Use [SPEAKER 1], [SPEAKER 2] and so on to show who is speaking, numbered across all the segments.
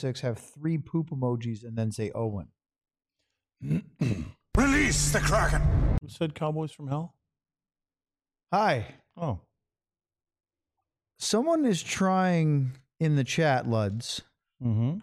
[SPEAKER 1] 6 have 3 poop emojis and then say Owen.
[SPEAKER 2] Release the Kraken.
[SPEAKER 3] Who said Cowboys from Hell?
[SPEAKER 1] Hi.
[SPEAKER 3] Oh.
[SPEAKER 1] Someone is trying in the chat, Luds.
[SPEAKER 3] Mm-hmm.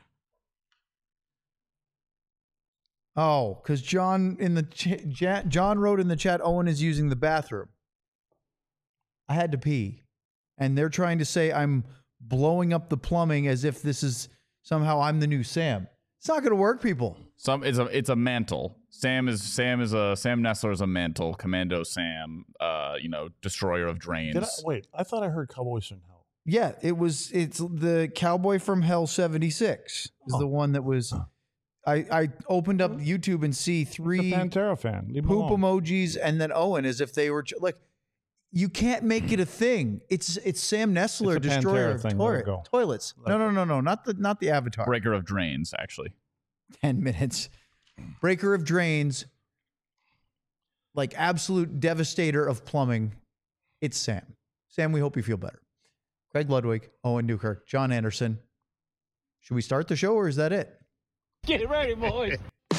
[SPEAKER 1] Oh, because John in the John wrote in the chat, Owen is using the bathroom. I had to pee. And they're trying to say I'm blowing up the plumbing as if this is somehow I'm the new Sam. It's not going to work, people.
[SPEAKER 4] It's a mantle. Sam Nestler is a mantle. Commando Sam, destroyer of drains.
[SPEAKER 3] I thought I heard Cowboys from Hell.
[SPEAKER 1] Yeah, it's the Cowboy from Hell 76 is the one that was. I opened up YouTube and see 3
[SPEAKER 3] Pantera fan. Leave
[SPEAKER 1] poop emojis and then Owen as if they were like. You can't make it a thing. It's Sam Nestler, destroyer of toilets. No, not the Avatar.
[SPEAKER 4] Breaker of drains, actually.
[SPEAKER 1] 10 minutes. Breaker of drains. Like absolute devastator of plumbing. It's Sam. Sam, we hope you feel better. Craig Ludwig, Owen Newkirk, John Anderson. Should we start the show or is that it?
[SPEAKER 5] Get ready, boys.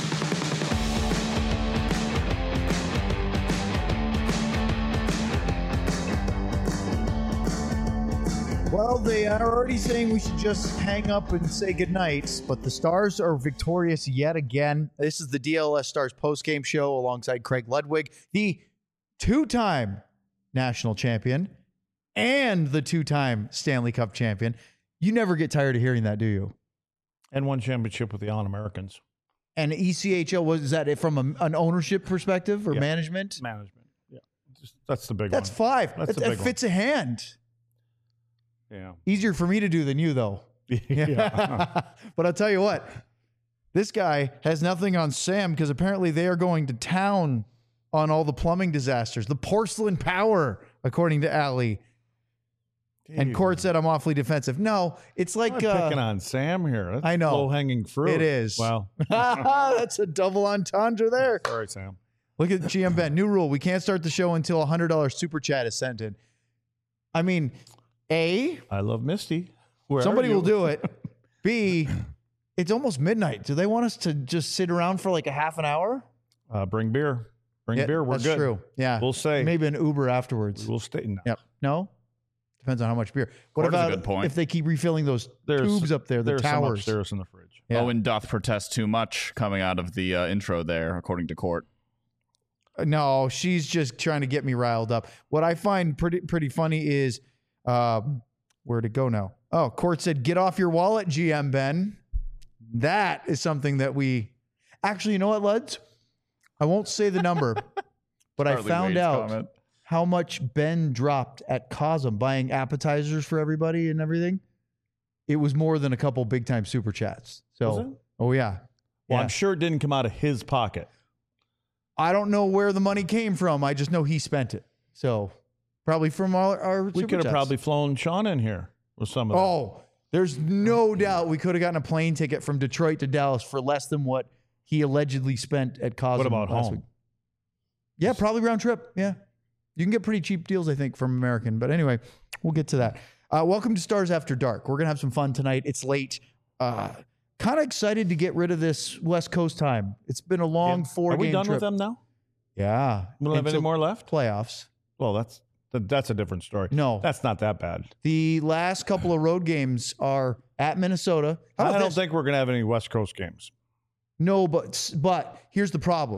[SPEAKER 1] Well, they are already saying we should just hang up and say goodnight, but the Stars are victorious yet again. This is the DLS Stars postgame show alongside Craig Ludwig, the 2-time national champion and the 2-time Stanley Cup champion. You never get tired of hearing that, do you?
[SPEAKER 3] And 1 championship with the All-Americans.
[SPEAKER 1] And ECHL, is that it from an ownership perspective or management?
[SPEAKER 3] Management, yeah. That's the big
[SPEAKER 1] That's
[SPEAKER 3] one.
[SPEAKER 1] 5. That fits a hand.
[SPEAKER 3] Yeah.
[SPEAKER 1] Easier for me to do than you, though.
[SPEAKER 3] Yeah.
[SPEAKER 1] But I'll tell you what, this guy has nothing on Sam because apparently they are going to town on all the plumbing disasters. The porcelain power, according to Allie. And Court said I'm awfully defensive. No, it's like...
[SPEAKER 3] I'm picking on Sam here. That's
[SPEAKER 1] I know.
[SPEAKER 3] low-hanging fruit.
[SPEAKER 1] It is.
[SPEAKER 3] Wow.
[SPEAKER 1] That's a double entendre there.
[SPEAKER 3] Sorry, Sam.
[SPEAKER 1] Look at GM Ben. New rule. We can't start the show until $100 super chat is sent in. I mean... A,
[SPEAKER 3] I love Misty.
[SPEAKER 1] Somebody will do it. B, it's almost midnight. Do they want us to just sit around for like a half an hour?
[SPEAKER 3] Bring beer. Bring beer. We're
[SPEAKER 1] that's
[SPEAKER 3] good.
[SPEAKER 1] True. Yeah.
[SPEAKER 3] We'll say.
[SPEAKER 1] Maybe an Uber afterwards.
[SPEAKER 3] We'll stay. No.
[SPEAKER 1] Yep. No? Depends on how much beer. What
[SPEAKER 4] Court is a
[SPEAKER 1] about
[SPEAKER 4] good point.
[SPEAKER 1] if they keep refilling those tubes up there, the
[SPEAKER 3] there's
[SPEAKER 1] towers?
[SPEAKER 3] Some upstairs in the fridge.
[SPEAKER 1] Yeah.
[SPEAKER 4] Owen doth protest too much coming out of the intro there, according to Court.
[SPEAKER 1] No, she's just trying to get me riled up. What I find pretty funny is... where'd it go now? Oh, Court said, get off your wallet, GM Ben. That is something that we... Actually, you know what, Luds? I won't say the number, but I found out how much Ben dropped at Cosm buying appetizers for everybody and everything. It was more than a couple big-time super chats. So,
[SPEAKER 3] Was it?
[SPEAKER 1] Oh, yeah.
[SPEAKER 3] Well,
[SPEAKER 1] Yeah.
[SPEAKER 3] I'm sure it didn't come out of his pocket.
[SPEAKER 1] I don't know where the money came from. I just know he spent it. So... Probably from our
[SPEAKER 3] We could have probably flown Sean in here with some of that.
[SPEAKER 1] Oh, there's no doubt we could have gotten a plane ticket from Detroit to Dallas for less than what he allegedly spent at Cosmo.
[SPEAKER 3] What about
[SPEAKER 1] last
[SPEAKER 3] home?
[SPEAKER 1] week. Yeah, probably round trip. Yeah. You can get pretty cheap deals, I think, from American. But anyway, we'll get to that. Welcome to Stars After Dark. We're going to have some fun tonight. It's late. Kind of excited to get rid of this West Coast time. It's been a long 4-game trip.
[SPEAKER 3] Are we done with them now?
[SPEAKER 1] Yeah.
[SPEAKER 3] We don't have any more left?
[SPEAKER 1] Playoffs.
[SPEAKER 3] Well, that's a different story.
[SPEAKER 1] No.
[SPEAKER 3] That's not that bad.
[SPEAKER 1] The last couple of road games are at Minnesota. How about
[SPEAKER 3] I don't
[SPEAKER 1] this?
[SPEAKER 3] think we're going to have any West Coast games.
[SPEAKER 1] No, but here's the problem.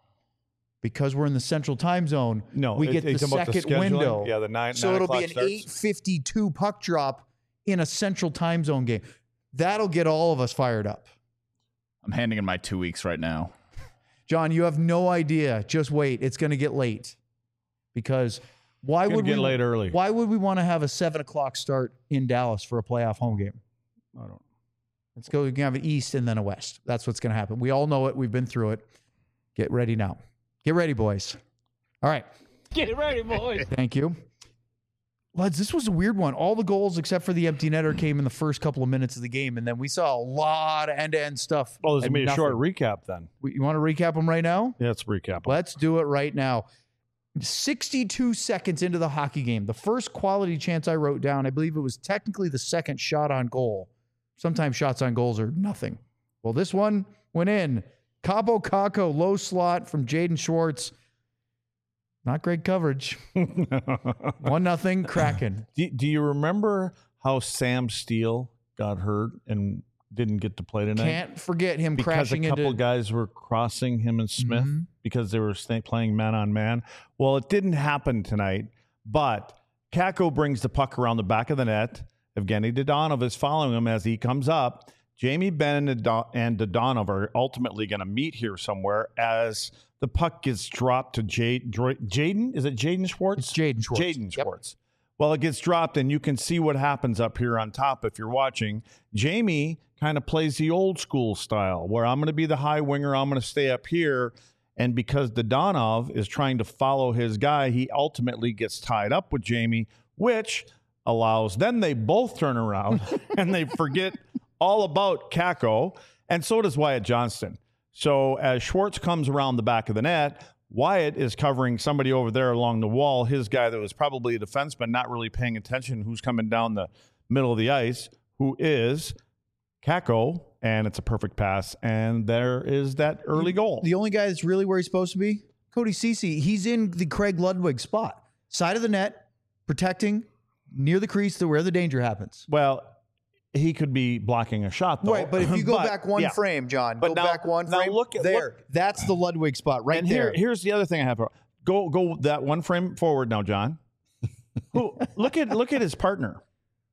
[SPEAKER 1] Because we're in the central time zone,
[SPEAKER 3] No,
[SPEAKER 1] we get the
[SPEAKER 3] it's about the
[SPEAKER 1] second
[SPEAKER 3] scheduling.
[SPEAKER 1] window.
[SPEAKER 3] Yeah, the 9
[SPEAKER 1] So it'll be an
[SPEAKER 3] starts.
[SPEAKER 1] 8:52 puck drop in a central time zone game. That'll get all of us fired up.
[SPEAKER 4] I'm handing in my 2 weeks right now.
[SPEAKER 1] John, you have no idea. Just wait. It's going to get late. Because why would we
[SPEAKER 3] get late early?
[SPEAKER 1] Why would we want to have a 7:00 start in Dallas for a playoff home game?
[SPEAKER 3] I don't.
[SPEAKER 1] Let's go. We can have an East and then a West. That's what's going to happen. We all know it. We've been through it. Get ready now. Get ready, boys. All right.
[SPEAKER 5] Get ready, boys.
[SPEAKER 1] Thank you. Lads, this was a weird one. All the goals except for the empty netter came in the first couple of minutes of the game, and then we saw a lot of end-to-end stuff.
[SPEAKER 3] Oh, there's
[SPEAKER 1] and
[SPEAKER 3] going to be a short
[SPEAKER 1] nothing.
[SPEAKER 3] recap then.
[SPEAKER 1] You want to recap them right now?
[SPEAKER 3] Yeah, let's recap them.
[SPEAKER 1] Let's do it right now. 62 seconds into the hockey game, the first quality chance I wrote down, I believe it was technically the second shot on goal sometimes shots on goals are nothing. Well, this one went in. Cabo Caco, low slot from Jaden Schwartz. Not great coverage. 1-0 Kraken.
[SPEAKER 3] Do you remember how Sam Steele got hurt and didn't get to play tonight?
[SPEAKER 1] Can't forget him
[SPEAKER 3] because
[SPEAKER 1] crashing
[SPEAKER 3] a couple
[SPEAKER 1] into.
[SPEAKER 3] guys were crossing him and Smith because they were playing man on man. Well, it didn't happen tonight, but Kako brings the puck around the back of the net. Evgeny Dodonov is following him as he comes up. Jamie Benn and Dodonov are ultimately going to meet here somewhere as the puck gets dropped to Jaden. Is it Jaden Schwartz?
[SPEAKER 1] It's Jaden Schwartz.
[SPEAKER 3] Jaden Schwartz. Well, it gets dropped, and you can see what happens up here on top if you're watching. Jamie kind of plays the old school style where I'm going to be the high winger. I'm going to stay up here. And because Dodonov is trying to follow his guy, he ultimately gets tied up with Jamie, which allows, then they both turn around and they forget all about Kako, and so does Wyatt Johnston. So as Schwartz comes around the back of the net, Wyatt is covering somebody over there along the wall, his guy that was probably a defenseman, not really paying attention who's coming down the middle of the ice, who is Kako, and it's a perfect pass, and there is that early goal.
[SPEAKER 1] The only guy that's really where he's supposed to be, Cody Ceci. He's in the Craig Ludwig spot. Side of the net, protecting, near the crease to where the danger happens.
[SPEAKER 3] Well, he could be blocking a shot, though.
[SPEAKER 1] Right, but if you go back one frame, John, go back one frame,
[SPEAKER 3] look at,
[SPEAKER 1] there. That's the Ludwig spot right
[SPEAKER 3] and
[SPEAKER 1] there.
[SPEAKER 3] Here's the other thing I have. Go that one frame forward now, John. Look at his partner.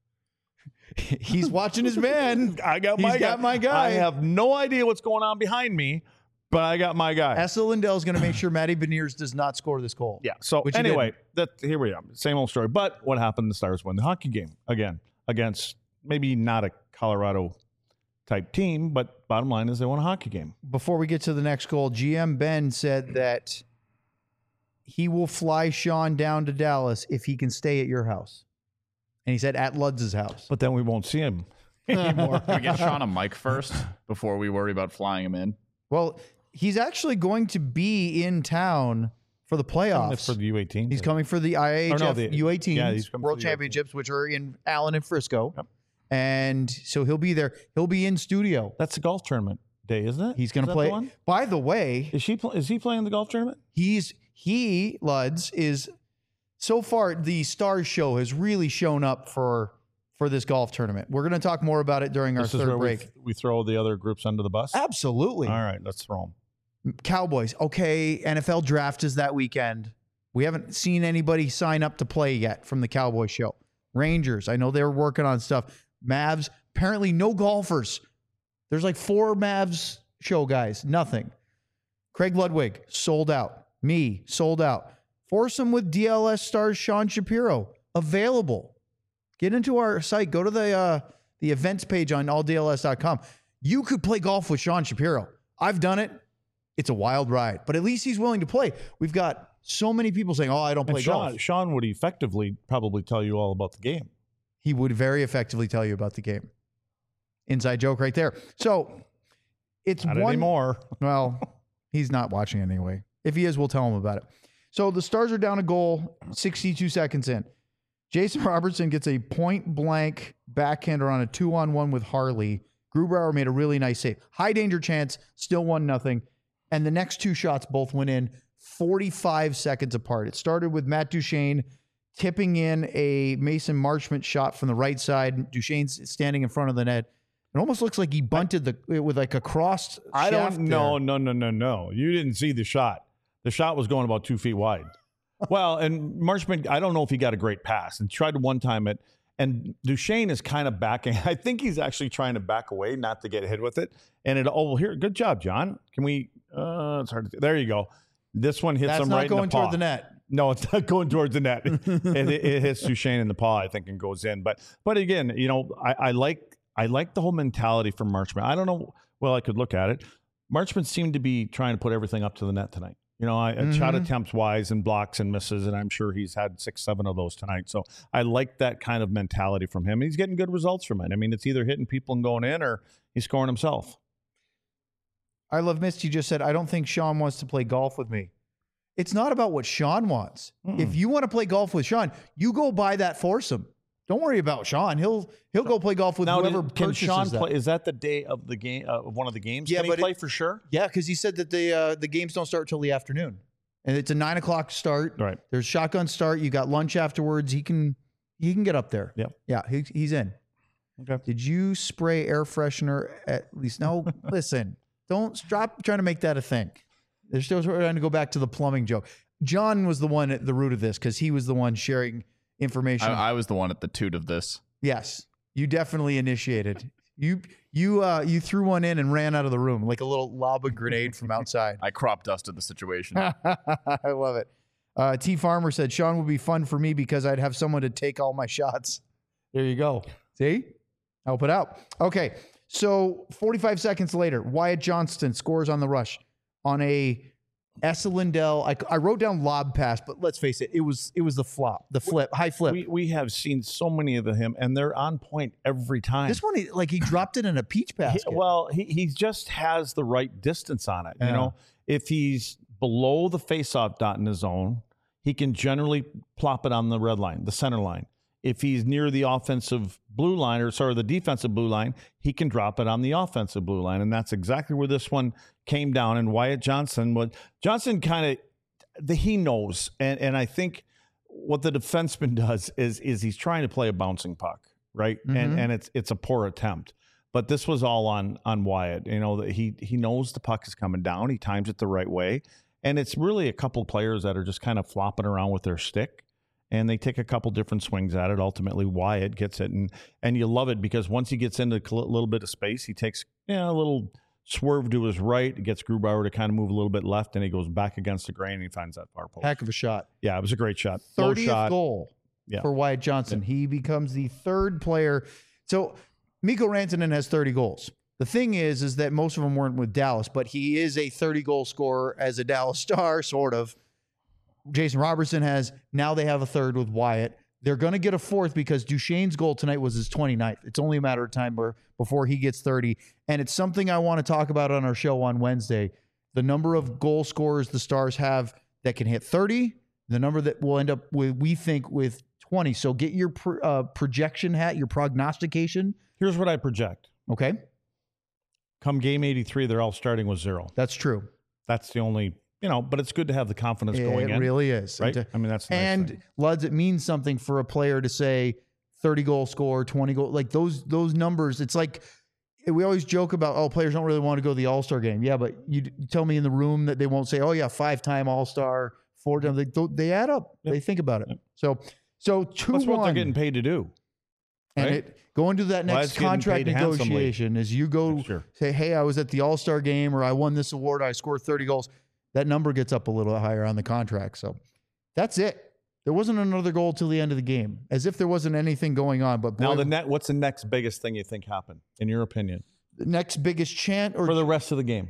[SPEAKER 1] He's watching his man.
[SPEAKER 3] I got
[SPEAKER 1] my guy.
[SPEAKER 3] I have no idea what's going on behind me, but I got my guy.
[SPEAKER 1] Essa Lindell's going to make sure Matty Beniers does not score this goal.
[SPEAKER 3] Yeah. So
[SPEAKER 1] Which he
[SPEAKER 3] anyway, here we are. Same old story. But what happened? The Stars win the hockey game again against maybe not a Colorado type team, but bottom line is they won a hockey game.
[SPEAKER 1] Before we get to the next goal, GM Ben said that he will fly Sean down to Dallas if he can stay at your house. And he said at Ludz's house.
[SPEAKER 3] But then we won't see him anymore.
[SPEAKER 4] Can we get Sean a mic first before we worry about flying him in?
[SPEAKER 1] Well, he's actually going to be in town for the playoffs.
[SPEAKER 3] For the U18.
[SPEAKER 1] He's coming for the IAHF U18
[SPEAKER 3] yeah, he's coming
[SPEAKER 1] World
[SPEAKER 3] for the U18.
[SPEAKER 1] Championships, which are in Allen and Frisco.
[SPEAKER 3] Yep.
[SPEAKER 1] And so he'll be there. He'll be in studio.
[SPEAKER 3] That's the golf tournament day, isn't it?
[SPEAKER 1] He's going
[SPEAKER 3] Is
[SPEAKER 1] to
[SPEAKER 3] that
[SPEAKER 1] play.
[SPEAKER 3] the one?
[SPEAKER 1] By the way,
[SPEAKER 3] Is he playing the golf tournament?
[SPEAKER 1] Luds is so far the Stars show has really shown up for this golf tournament. We're going to talk more about it during our
[SPEAKER 3] This is
[SPEAKER 1] third
[SPEAKER 3] where
[SPEAKER 1] break.
[SPEAKER 3] we throw the other groups under the bus?
[SPEAKER 1] Absolutely.
[SPEAKER 3] All right, let's throw them.
[SPEAKER 1] Cowboys. Okay, NFL draft is that weekend. We haven't seen anybody sign up to play yet from the Cowboys show. Rangers. I know they're working on stuff. Mavs. Apparently no golfers. There's like 4 Mavs show guys. Nothing. Craig Ludwig, sold out. Me, sold out. Foursome with DLS stars Sean Shapiro, available. Get into our site. Go to the events page on alldls.com. You could play golf with Sean Shapiro. I've done it. It's a wild ride, but at least he's willing to play. We've got so many people saying, "Oh, I don't play golf."
[SPEAKER 3] Sean would effectively probably tell you all about the game.
[SPEAKER 1] He would very effectively tell you about the game. Inside joke right there. So it's
[SPEAKER 3] Not
[SPEAKER 1] one
[SPEAKER 3] anymore.
[SPEAKER 1] Well, he's not watching anyway. If he is, we'll tell him about it. So the Stars are down a goal, 62 seconds in. Jason Robertson gets a point-blank backhander on a 2-on-1 with Harley. Grubauer made a really nice save. High danger chance, still 1-0. And the next 2 shots both went in 45 seconds apart. It started with Matt Duchene tipping in a Mason Marchment shot from the right side. Duchene's standing in front of the net. It almost looks like he bunted with like a crossed
[SPEAKER 3] I
[SPEAKER 1] shaft
[SPEAKER 3] don't. No.
[SPEAKER 1] there.
[SPEAKER 3] You didn't see the shot. The shot was going about 2 feet wide. Well, and Marchment, I don't know if he got a great pass and tried to one-time it. And Duchene is kind of backing. I think he's actually trying to back away, not to get hit with it. And here, good job, John. Can we? It's hard to. There you go. This one hits him right in the paw.
[SPEAKER 1] That's not going toward the net.
[SPEAKER 3] No, it's not going towards the net. it hits Duchene in the paw, I think, and goes in. But again, I like the whole mentality from Marchment. I don't know. Well, I could look at it. Marchment seemed to be trying to put everything up to the net tonight. Shot attempts wise and blocks and misses, and I'm sure he's had 6-7 of those tonight. So I like that kind of mentality from him. He's getting good results from it. I mean, it's either hitting people and going in, or he's scoring himself.
[SPEAKER 1] I Love Misty just said, I don't think Sean wants to play golf with me. It's not about what Sean wants. If you want to play golf with Sean, you go buy that foursome. Don't worry about Sean. He'll go play golf with
[SPEAKER 3] Now,
[SPEAKER 1] whoever
[SPEAKER 3] can
[SPEAKER 1] purchases
[SPEAKER 3] Sean
[SPEAKER 1] that.
[SPEAKER 3] play? Is that the day of the game of one of the games?
[SPEAKER 1] Yeah,
[SPEAKER 3] Can he
[SPEAKER 1] but
[SPEAKER 3] play for sure?
[SPEAKER 1] Yeah, because he said that the games don't start till the afternoon, and it's a 9 o'clock start.
[SPEAKER 3] Right.
[SPEAKER 1] There's shotgun start. You got lunch afterwards. He can get up there.
[SPEAKER 3] Yep.
[SPEAKER 1] Yeah, he's in.
[SPEAKER 3] Okay.
[SPEAKER 1] Did you spray air freshener at least? No. Listen, don't stop trying to make that a thing. They're still trying to go back to the plumbing joke. John was the one at the root of this because he was the one sharing information.
[SPEAKER 4] I was the one at the toot of this.
[SPEAKER 1] Yes, you definitely initiated. You threw one in and ran out of the room like a little lob a grenade from outside.
[SPEAKER 4] I crop dusted the situation.
[SPEAKER 1] I love it. T Farmer said Sean would be fun for me because I'd have someone to take all my shots. There you go. See, help it out. Okay, so 45 seconds later, Wyatt Johnston scores on the rush on a Essa Lindell. I wrote down lob pass, but let's face it, it was the flip, high flip.
[SPEAKER 3] We have seen so many of him, and they're on point every time.
[SPEAKER 1] This one, he dropped it in a peach basket.
[SPEAKER 3] He just has the right distance on it.
[SPEAKER 1] Yeah.
[SPEAKER 3] You know, if he's below the faceoff dot in his zone, he can generally plop it on the red line, the center line. If he's near the offensive blue line, the defensive blue line, he can drop it on the offensive blue line. And that's exactly where this one came down. And Wyatt Johnson he knows. And I think what the defenseman does is he's trying to play a bouncing puck, right?
[SPEAKER 1] Mm-hmm.
[SPEAKER 3] And it's a poor attempt. But this was all on Wyatt. You know, that he knows the puck is coming down. He times it the right way. And it's really a couple players that are just kind of flopping around with their stick. And they take a couple different swings at it. Ultimately, Wyatt gets it. And you love it because once he gets into a little bit of space, he takes a little swerve to his right. It gets Grubauer to kind of move a little bit left, and he goes back against the grain, and he finds that far post.
[SPEAKER 1] Heck of a shot.
[SPEAKER 3] Yeah, it was a great shot. Low
[SPEAKER 1] 30th
[SPEAKER 3] shot.
[SPEAKER 1] goal for Wyatt Johnson. He becomes the third player. So Mikko Rantanen has 30 goals. The thing is that most of them weren't with Dallas, but he is a 30-goal scorer as a Dallas Star, sort of. Jason Robertson has. Now they have a third with Wyatt. They're going to get a fourth because Duchesne's goal tonight was his 29th. It's only a matter of time before he gets 30. And it's something I want to talk about on our show on Wednesday. The number of goal scorers the Stars have that can hit 30, the number that will end up with, we think, with 20. So get your projection hat, your prognostication.
[SPEAKER 3] Here's what I project.
[SPEAKER 1] Okay.
[SPEAKER 3] Come game 83, they're all starting with 0.
[SPEAKER 1] That's true.
[SPEAKER 3] That's the only, but it's good to have the confidence going in.
[SPEAKER 1] It really is.
[SPEAKER 3] Right? I mean, that's the nice thing.
[SPEAKER 1] Luds, it means something for a player to say 30 goal score, 20 goal, like those numbers. It's like we always joke about, players don't really want to go to the All-Star game. Yeah, but you tell me in the room that they won't say, 5-time All-Star, 4-time. They add up. Yep. They think about it. Yep. So 2-1.
[SPEAKER 3] That's what they're getting paid to do.
[SPEAKER 1] And
[SPEAKER 3] right?
[SPEAKER 1] Going to that next contract negotiation as you go say, hey, I was at the All-Star game or I won this award, I scored 30 goals. That number gets up a little higher on the contract. So that's it. There wasn't another goal till the end of the game, as if there wasn't anything going on. But boy,
[SPEAKER 3] now, what's the next biggest thing you think happened, in your opinion?
[SPEAKER 1] The next biggest chant
[SPEAKER 3] for the rest of the game?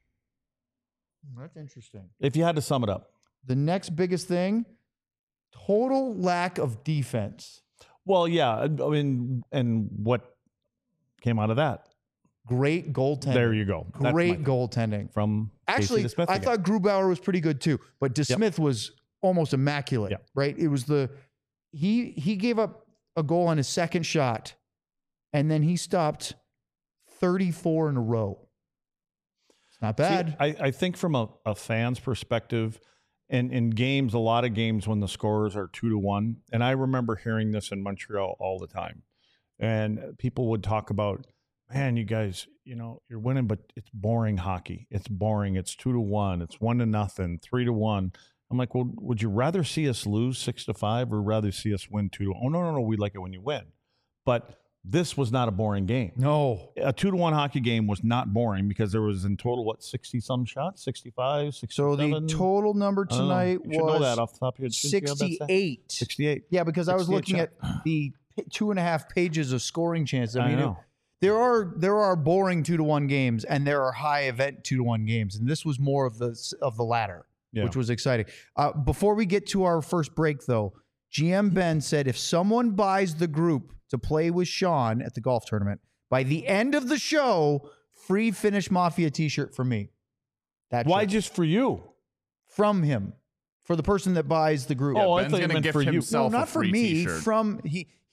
[SPEAKER 1] That's interesting.
[SPEAKER 3] If you had to sum it up.
[SPEAKER 1] The next biggest thing, total lack of defense.
[SPEAKER 3] Well, yeah. I mean, and what came out of that?
[SPEAKER 1] Great goaltending.
[SPEAKER 3] There you go.
[SPEAKER 1] Great goaltending.
[SPEAKER 3] From
[SPEAKER 1] actually,
[SPEAKER 3] DeSmith
[SPEAKER 1] I thought Grubauer was pretty good too, but DeSmith was almost immaculate, right? It was he gave up a goal on his second shot, and then he stopped 34 in a row. It's not bad.
[SPEAKER 3] See, I think from a fan's perspective, and in games, a lot of games when the scores are 2-1, and I remember hearing this in Montreal all the time, and people would talk about, man, you guys, you're winning, but it's boring hockey. It's boring. It's 2-1. It's 1-0, 3-1. I'm like, well, would you rather see us lose 6-5 or rather see us win 2-1? Oh, no. We like it when you win. But this was not a boring game.
[SPEAKER 1] No.
[SPEAKER 3] A 2-1 hockey game was not boring because there was in total, 60-some shots? 65, 67?
[SPEAKER 1] So the total number tonight was
[SPEAKER 3] know that off the top of your head.
[SPEAKER 1] 68.
[SPEAKER 3] 68.
[SPEAKER 1] Yeah, because I was looking at the 2.5 pages of scoring chances. I mean, there are boring 2-1 games and there are high event 2-1 games, and this was more of the latter, which was exciting. Before we get to our first break, though, GM Ben said if someone buys the group to play with Sean at the golf tournament, by the end of the show, free Finnish Mafia t-shirt from me.
[SPEAKER 3] Why just for you?
[SPEAKER 1] From him. For the person that buys the group.
[SPEAKER 3] I thought you meant for you.
[SPEAKER 1] No, not for me. T-shirt.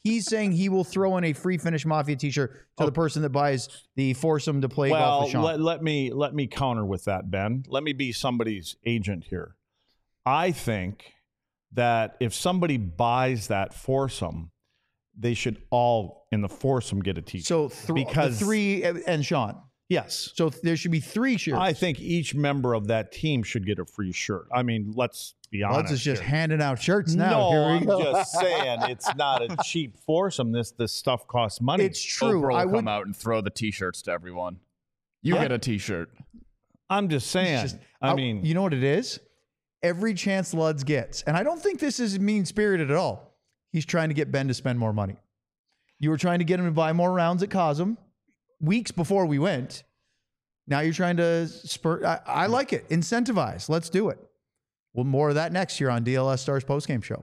[SPEAKER 1] He's saying he will throw in a free Finish Mafia t-shirt to the person that buys the foursome to play golf with Sean.
[SPEAKER 3] let me counter with that, Ben. Let me be somebody's agent here. I think that if somebody buys that foursome, they should all in the foursome get a t-shirt.
[SPEAKER 1] So
[SPEAKER 3] because
[SPEAKER 1] the three and Sean.
[SPEAKER 3] yes.
[SPEAKER 1] So there should be 3 shirts.
[SPEAKER 3] I think each member of that team should get a free shirt. I mean, let's be honest.
[SPEAKER 1] Let's just
[SPEAKER 3] here.
[SPEAKER 1] handing out shirts now.
[SPEAKER 3] No,
[SPEAKER 1] Here we
[SPEAKER 3] I'm
[SPEAKER 1] go.
[SPEAKER 3] just saying it's not a cheap foursome. This stuff costs money.
[SPEAKER 1] It's true.
[SPEAKER 4] Oprah will
[SPEAKER 1] I
[SPEAKER 4] come
[SPEAKER 1] would.
[SPEAKER 4] out and throw the T-shirts to everyone. You get a T-shirt.
[SPEAKER 3] I'm just saying. I mean,
[SPEAKER 1] you know what it is? Every chance Luds gets, and I don't think this is mean-spirited at all. He's trying to get Ben to spend more money. You were trying to get him to buy more rounds at Cosm weeks before we went. Now you're trying to spur. I like it. Incentivize. Let's do it. Well, more of that next year on DLS Stars postgame show.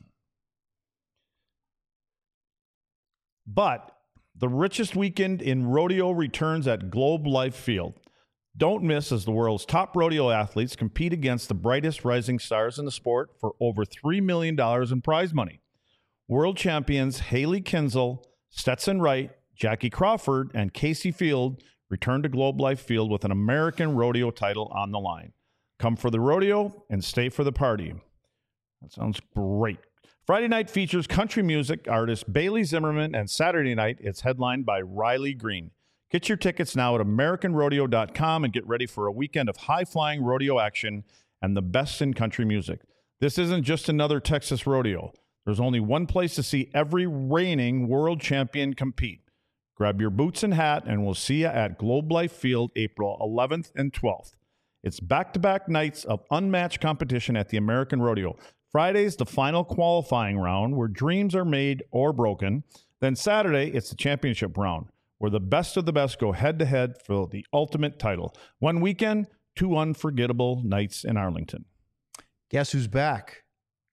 [SPEAKER 3] but the richest weekend in rodeo returns at Globe Life Field. Don't miss as the world's top rodeo athletes compete against the brightest rising stars in the sport for over $3 million in prize money. World champions Haley Kinsel, Stetson Wright, Jackie Crawford, and Casey Field return to Globe Life Field with an American rodeo title on the line. Come for the rodeo and stay for the party. That sounds great. Friday night features country music artist Bailey Zimmerman, and Saturday night it's headlined by Riley Green. Get your tickets now at AmericanRodeo.com and get ready for a weekend of high-flying rodeo action and the best in country music. This isn't just another Texas rodeo. There's only one place to see every reigning world champion compete. Grab your boots and hat, and we'll see you at Globe Life Field April 11th and 12th. It's back-to-back nights of unmatched competition at the American Rodeo. Friday's the final qualifying round where dreams are made or broken. Then Saturday, it's the championship round where the best of the best go head-to-head for the ultimate title. One weekend, 2 unforgettable nights in Arlington.
[SPEAKER 1] Guess who's back?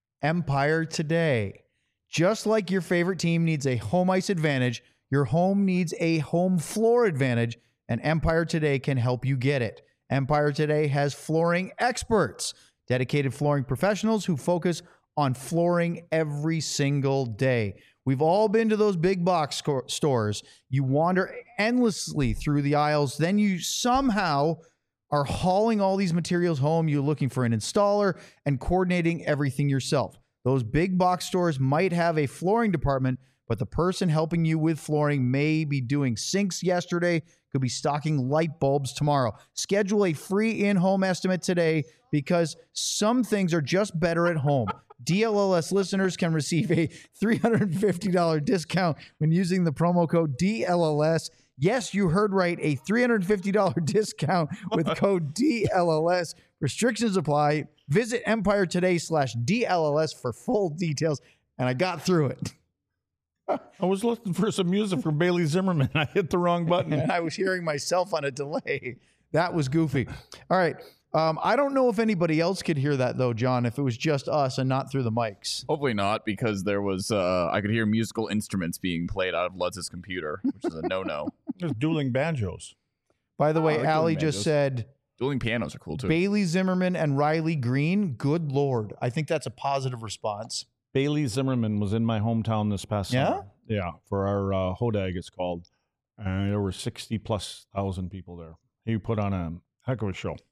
[SPEAKER 1] Empire Today. Just like your favorite team needs a home ice advantage, your home needs a home floor advantage, and Empire Today can help you get it. Empire Today has flooring experts, dedicated flooring professionals who focus on flooring every single day. We've all been to those big box stores. You wander endlessly through the aisles. Then you somehow are hauling all these materials home. You're looking for an installer and coordinating everything yourself. Those big box stores might have a flooring department, but the person helping you with flooring may be doing sinks yesterday, could be stocking light bulbs tomorrow. Schedule a free in-home estimate today because some things are just better at home. DLLS listeners can receive a $350 discount when using the promo code DLLS. Yes, you heard right, a $350 discount with code DLLS. Restrictions apply. Visit Empire Today/DLLS for full details. And I got through it.
[SPEAKER 3] I was looking for some music from Bailey Zimmerman. I hit the wrong button.
[SPEAKER 1] And I was hearing myself on a delay. That was goofy. All right. I don't know if anybody else could hear that, though, John, if it was just us and not through the mics.
[SPEAKER 4] Hopefully not, because there was I could hear musical instruments being played out of Lutz's computer, which is a no-no.
[SPEAKER 3] There's dueling banjos.
[SPEAKER 1] By the way,
[SPEAKER 4] I like
[SPEAKER 1] Allie
[SPEAKER 4] dueling
[SPEAKER 1] just
[SPEAKER 4] banjos.
[SPEAKER 1] said
[SPEAKER 4] Dueling pianos are cool too.
[SPEAKER 1] Bailey Zimmerman and Riley Green. Good Lord. I think that's a positive response.
[SPEAKER 3] Bailey Zimmerman was in my hometown this past summer. Yeah, for our Hodag, it's called. There were 60,000+ people there. He put on a heck of a show.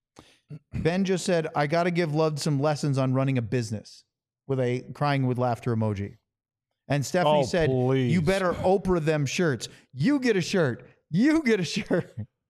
[SPEAKER 1] Ben just said, I got to give Love some lessons on running a business with a crying with laughter emoji. And Stephanie said,
[SPEAKER 3] please.
[SPEAKER 1] you better Oprah them shirts. You get a shirt. You get a shirt.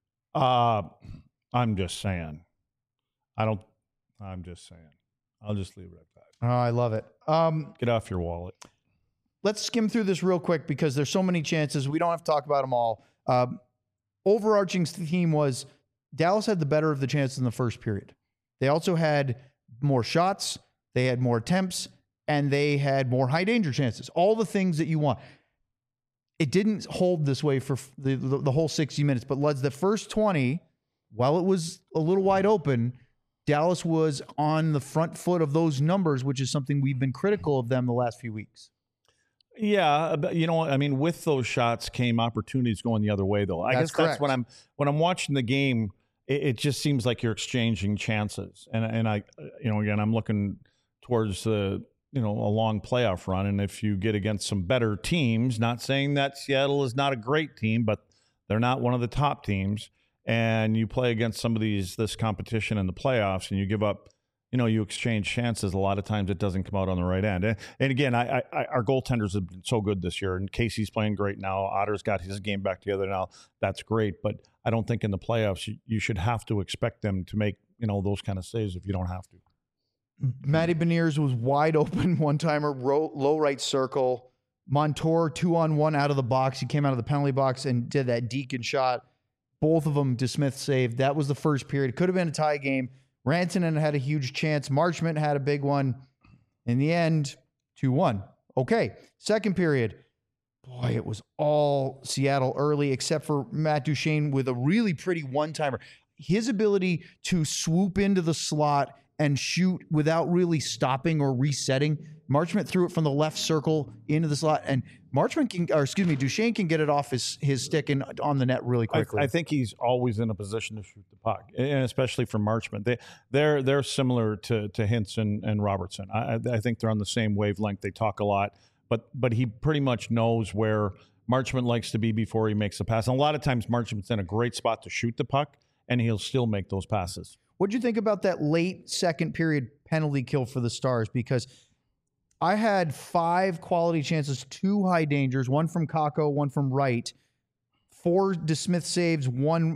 [SPEAKER 3] I'm just saying. I'm just saying. I'll just leave it at that.
[SPEAKER 1] Oh, I love it.
[SPEAKER 3] Get off your wallet.
[SPEAKER 1] Let's skim through this real quick because there's so many chances. We don't have to talk about them all. Overarching theme was Dallas had the better of the chances in the first period. They also had more shots, they had more attempts, and they had more high danger chances. All the things that you want. It didn't hold this way for the whole 60 minutes, but Luds, the first 20, while it was a little wide open, Dallas was on the front foot of those numbers, which is something we've been critical of them the last few weeks.
[SPEAKER 3] Yeah, but you know what? I mean, with those shots came opportunities going the other way, though. I guess
[SPEAKER 1] correct.
[SPEAKER 3] that's when I'm watching the game. It just seems like you're exchanging chances, and I, again, I'm looking towards the a long playoff run. And if you get against some better teams, not saying that Seattle is not a great team, but they're not one of the top teams, and you play against some of this competition in the playoffs and you give up, you exchange chances, a lot of times it doesn't come out on the right end. And again, our goaltenders have been so good this year, and Casey's playing great now. Otter's got his game back together now. That's great. But I don't think in the playoffs you should have to expect them to make, those kind of saves if you don't have to.
[SPEAKER 1] Matty Beniers was wide open one-timer, low right circle. Montour 2-on-1 out of the box. He came out of the penalty box and did that Deacon shot. Both of them DeSmith saved. That was the first period. Could have been a tie game. Rantanen had a huge chance. Marchment had a big one. In the end, 2-1. Okay, second period. Boy, it was all Seattle early except for Matt Duchene with a really pretty one-timer. His ability to swoop into the slot and shoot without really stopping or resetting. Marchment threw it from the left circle into the slot, and Duchene can get it off his stick and on the net really quickly.
[SPEAKER 3] I think he's always in a position to shoot the puck, and especially for Marchment. They're similar to Hintz and Robertson. I think they're on the same wavelength. They talk a lot, but he pretty much knows where Marchment likes to be before he makes the pass. And a lot of times Marchment's in a great spot to shoot the puck, and he'll still make those passes.
[SPEAKER 1] What'd you think about that late second period penalty kill for the Stars? Because I had 5 quality chances, 2 high dangers, 1 from Kakko, 1 from Wright, 4 DeSmith saves,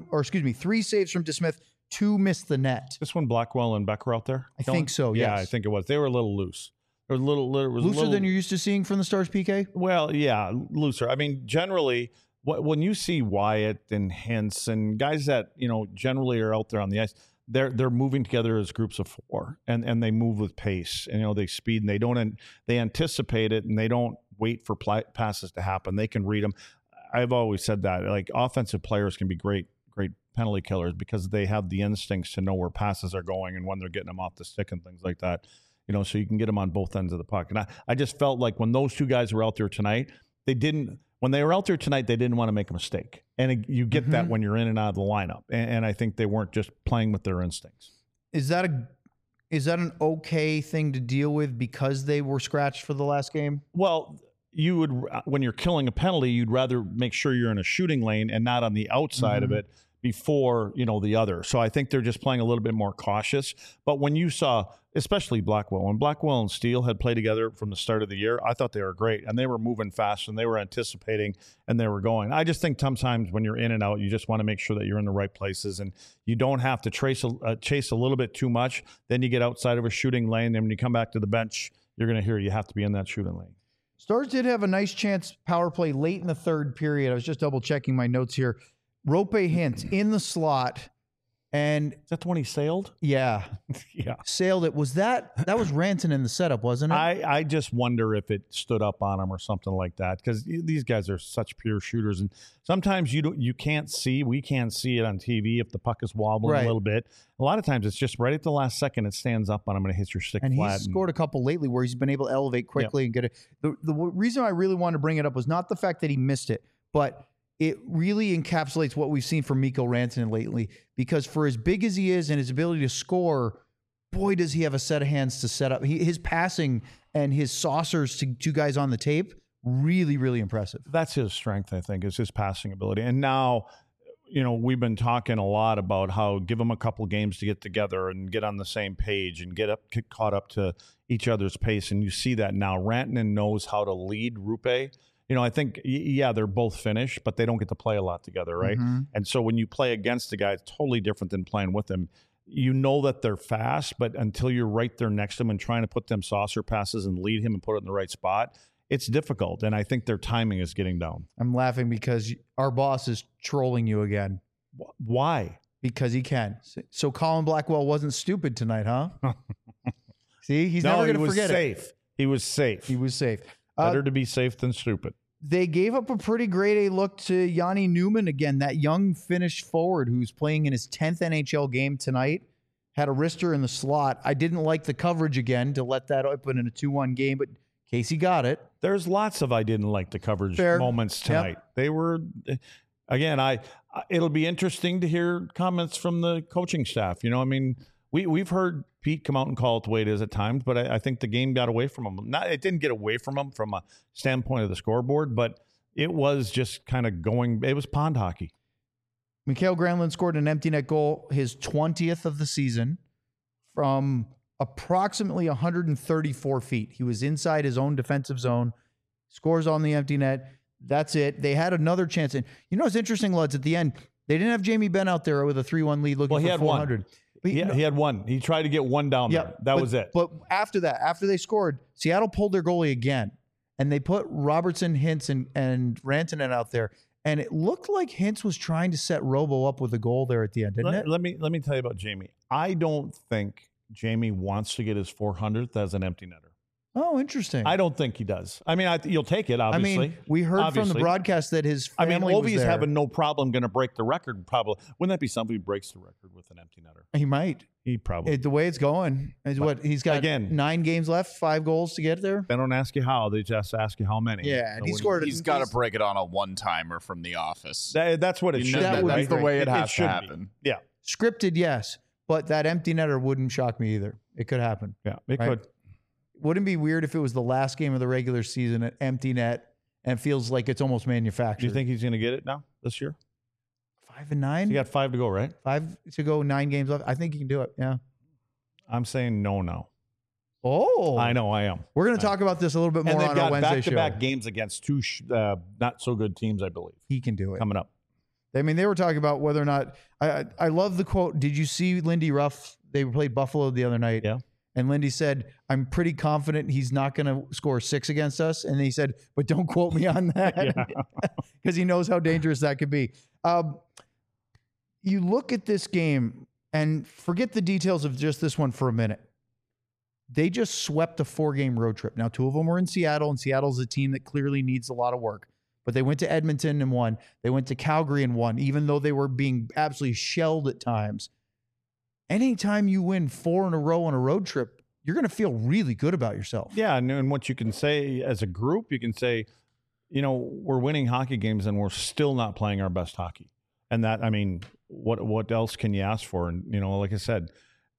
[SPEAKER 1] 3 saves from DeSmith, 2 missed the net.
[SPEAKER 3] This one, Blackwell and Becker out there?
[SPEAKER 1] I think so,
[SPEAKER 3] yeah,
[SPEAKER 1] yes.
[SPEAKER 3] I think it was. They were a little loose. It was
[SPEAKER 1] looser than you're used to seeing from the Stars, PK?
[SPEAKER 3] Well, yeah, looser. I mean, generally, when you see Wyatt and Hintz and guys that, generally are out there on the ice, they're moving together as groups of 4, and they move with pace, and they speed, and they anticipate it, and they don't wait for passes to happen. They can read them. I've always said that, like, offensive players can be great penalty killers because they have the instincts to know where passes are going and when they're getting them off the stick and things like that. So you can get them on both ends of the puck. And I just felt like when those 2 guys were out there tonight, when they were out there tonight, they didn't want to make a mistake. And you get that when you're in and out of the lineup. And I think they weren't just playing with their instincts.
[SPEAKER 1] Is that an okay thing to deal with because they were scratched for the last game?
[SPEAKER 3] Well, you would, when you're killing a penalty, you'd rather make sure you're in a shooting lane and not on the outside of it before, the other. So I think they're just playing a little bit more cautious. But when you saw, especially Blackwell, when Blackwell and Steele had played together from the start of the year, I thought they were great, and they were moving fast, and they were anticipating, and they were going. I just think sometimes when you're in and out, you just want to make sure that you're in the right places, and you don't have to chase a little bit too much. Then you get outside of a shooting lane, and when you come back to the bench, you're going to hear you have to be in that shooting lane.
[SPEAKER 1] Stars did have a nice chance power play late in the third period. I was just double checking my notes here. Rope Hintz in the slot, and
[SPEAKER 3] is that the one he sailed?
[SPEAKER 1] Yeah,
[SPEAKER 3] yeah,
[SPEAKER 1] sailed it. That was Rantanen in the setup, wasn't it?
[SPEAKER 3] I just wonder if it stood up on him or something like that, because these guys are such pure shooters, and sometimes we can't see it on TV if the puck is wobbling a little bit. A lot of times it's just right at the last second it stands up on him and it hits your stick
[SPEAKER 1] and
[SPEAKER 3] flat.
[SPEAKER 1] He's scored a couple lately where he's been able to elevate quickly and get it. The reason I really wanted to bring it up was not the fact that he missed it, but it really encapsulates what we've seen from Mikko Rantanen lately, because for as big as he is and his ability to score, boy, does he have a set of hands to set up. His passing and his saucers to 2 guys on the tape, really, really impressive.
[SPEAKER 3] That's his strength, I think, is his passing ability. And now, we've been talking a lot about how give them a couple games to get together and get on the same page and get caught up to each other's pace. And you see that now. Rantanen knows how to lead Rupe. I think, they're both Finnish, but they don't get to play a lot together, right? And so when you play against a guy, it's totally different than playing with them. You know that they're fast, but until you're right there next to them and trying to put them saucer passes and lead him and put it in the right spot, it's difficult. And I think their timing is getting down.
[SPEAKER 1] I'm laughing because our boss is trolling you again.
[SPEAKER 3] Why?
[SPEAKER 1] Because he can. So Colin Blackwell wasn't stupid tonight, huh? See, he's never going to forget it.
[SPEAKER 3] He was safe.
[SPEAKER 1] He was safe.
[SPEAKER 3] Better to be safe than stupid.
[SPEAKER 1] They gave up a pretty grade A look to Yanni Newman again, that young Finnish forward who's playing in his 10th NHL game tonight. Had a wrister in the slot. I didn't like the coverage again to let that open in a 2-1 game, but Casey got it.
[SPEAKER 3] There's lots of I didn't like the coverage moments tonight. Yep. They were, again, it'll be interesting to hear comments from the coaching staff. we've heard Pete come out and call it the way it is at times, but I think the game got away from him. It didn't get away from him from a standpoint of the scoreboard, but it was just kind of going. It was pond hockey.
[SPEAKER 1] Mikael Granlund scored an empty net goal, his 20th of the season, from approximately 134 feet. He was inside his own defensive zone, scores on the empty net. That's it. They had another chance. And you know what's interesting, Luds, at the end, they didn't have Jamie Benn out there with a 3-1 lead looking for 400.
[SPEAKER 3] But he had one. He tried to get one down there. That was it.
[SPEAKER 1] But after that, after they scored, Seattle pulled their goalie again. And they put Robertson, Hintz, and Rantanen out there. And it looked like Hintz was trying to set Robo up with a goal there at the end, didn't it?
[SPEAKER 3] Let me tell you about Jamie. I don't think Jamie wants to get his 400th as an empty netter.
[SPEAKER 1] Oh, interesting.
[SPEAKER 3] I don't think he does. I mean, you'll take it, obviously.
[SPEAKER 1] I mean, we heard from the broadcast that his family was
[SPEAKER 3] Ovi's
[SPEAKER 1] there.
[SPEAKER 3] having no problem going to break the record, probably. Wouldn't that be somebody who breaks the record with an empty netter?
[SPEAKER 1] He might.
[SPEAKER 3] He probably.
[SPEAKER 1] The way it's going is what he's got.
[SPEAKER 3] Again,
[SPEAKER 1] 9 games left, 5 goals to get there.
[SPEAKER 3] They don't ask you how; they just ask you how many.
[SPEAKER 1] Yeah, and he scored.
[SPEAKER 4] He's got to break it on a one-timer from The Office.
[SPEAKER 3] That's what it should.
[SPEAKER 4] That's the way it has to
[SPEAKER 3] be.
[SPEAKER 4] happen.
[SPEAKER 3] Yeah,
[SPEAKER 1] scripted, yes, but that empty netter wouldn't shock me either. It could happen.
[SPEAKER 3] Yeah, it could.
[SPEAKER 1] Wouldn't it be weird if it was the last game of the regular season at empty net and it feels like it's almost manufactured?
[SPEAKER 3] Do you think he's going to get it now this year?
[SPEAKER 1] 5 and 9.
[SPEAKER 3] So you got 5 to go, right?
[SPEAKER 1] 5 to go, 9 games left. I think he can do it. Yeah.
[SPEAKER 3] I'm saying no now.
[SPEAKER 1] Oh,
[SPEAKER 3] I know I am.
[SPEAKER 1] We're going to talk about this a little bit more
[SPEAKER 3] and they've
[SPEAKER 1] on
[SPEAKER 3] got
[SPEAKER 1] our Wednesday
[SPEAKER 3] back-to-back
[SPEAKER 1] show.
[SPEAKER 3] games against 2 not so good teams, I believe.
[SPEAKER 1] He can do it.
[SPEAKER 3] Coming up.
[SPEAKER 1] I mean, they were talking about whether or not. I love the quote. Did you see Lindy Ruff? They played Buffalo the other night.
[SPEAKER 3] Yeah.
[SPEAKER 1] And Lindy said, "I'm pretty confident he's not going to score 6 against us." And he said, "But don't quote me on that," because he knows how dangerous that could be. You look at this game and forget the details of just this one for a minute. They just swept a 4-game road trip. Now, 2 of them were in Seattle, and Seattle's a team that clearly needs a lot of work. But they went to Edmonton and won. They went to Calgary and won, even though they were being absolutely shelled at times. Anytime you win 4 in a row on a road trip, you're going to feel really good about yourself.
[SPEAKER 3] Yeah, and what you can say as a group, you can say, we're winning hockey games and we're still not playing our best hockey. And that, I mean, what else can you ask for? And like I said,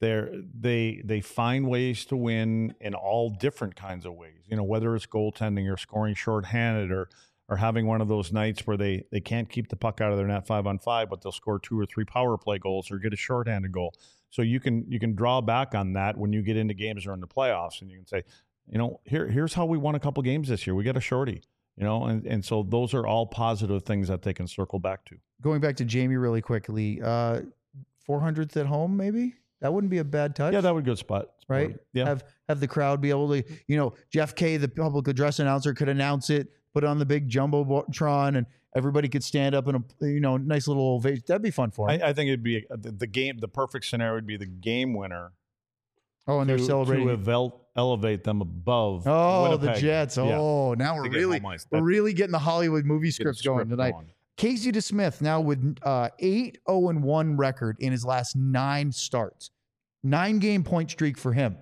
[SPEAKER 3] they find ways to win in all different kinds of ways. Whether it's goaltending or scoring shorthanded or having one of those nights where they can't keep the puck out of their net 5-on-5, but they'll score 2 or 3 power play goals or get a shorthanded goal. So you can draw back on that when you get into games or in the playoffs, and you can say, here's how we won a couple games this year. We got a shorty, and so those are all positive things that they can circle back to.
[SPEAKER 1] Going back to Jamie really quickly, 400th at home, maybe that wouldn't be a bad touch.
[SPEAKER 3] Yeah, that would be a good spot,
[SPEAKER 1] right?
[SPEAKER 3] Yeah,
[SPEAKER 1] have the crowd be able to, Jeff Kay, the public address announcer, could announce it, put it on the big jumbotron, and everybody could stand up in a nice little ovation. That'd be fun for him.
[SPEAKER 3] I think it'd be the game. The perfect scenario would be the game winner.
[SPEAKER 1] Oh, and they're celebrating
[SPEAKER 3] to elevate them above.
[SPEAKER 1] Oh,
[SPEAKER 3] Winnipeg.
[SPEAKER 1] the Jets. Oh, now we're really getting the Hollywood movie scripts going tonight. Casey DeSmith now with 8-0-1 record in his last 9 starts. 9-game point streak for him.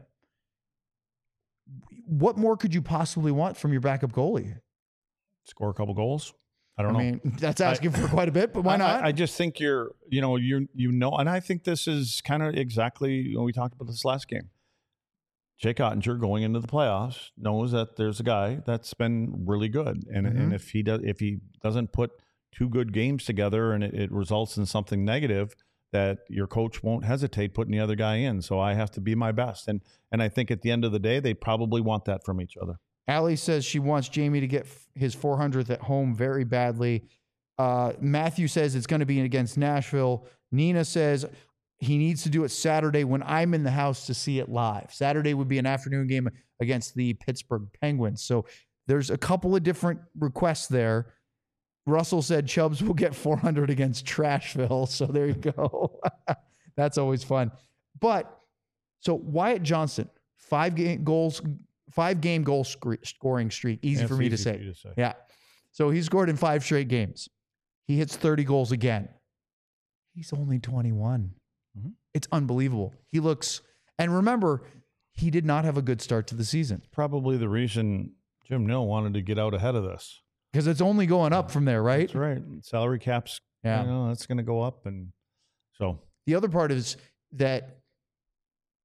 [SPEAKER 1] What more could you possibly want from your backup goalie?
[SPEAKER 3] Score a couple goals. I don't know.
[SPEAKER 1] I mean, that's asking for quite a bit, but why not?
[SPEAKER 3] I just think and I think this is kind of exactly we talked about this last game. Jake Ottinger going into the playoffs knows that there's a guy that's been really good, and if he doesn't put 2 good games together and it results in something negative, that your coach won't hesitate putting the other guy in. So I have to be my best, and I think at the end of the day, they probably want that from each other.
[SPEAKER 1] Allie says she wants Jamie to get his 400th at home very badly. Matthew says it's going to be against Nashville. Nina says he needs to do it Saturday when I'm in the house to see it live. Saturday would be an afternoon game against the Pittsburgh Penguins. So there's a couple of different requests there. Russell said Chubbs will get 400 against Trashville. So there you go. That's always fun. But so Wyatt Johnston, 5-game goal scoring streak. Easy for me to say. Yeah. So he scored in 5 straight games. He hits 30 goals again. He's only 21. Mm-hmm. It's unbelievable. He looks, and remember, he did not have a good start to the season.
[SPEAKER 3] Probably the reason Jim Nill wanted to get out ahead of this.
[SPEAKER 1] Because it's only going up from there, right?
[SPEAKER 3] That's right. Salary caps, that's going to go up. And so
[SPEAKER 1] the other part is that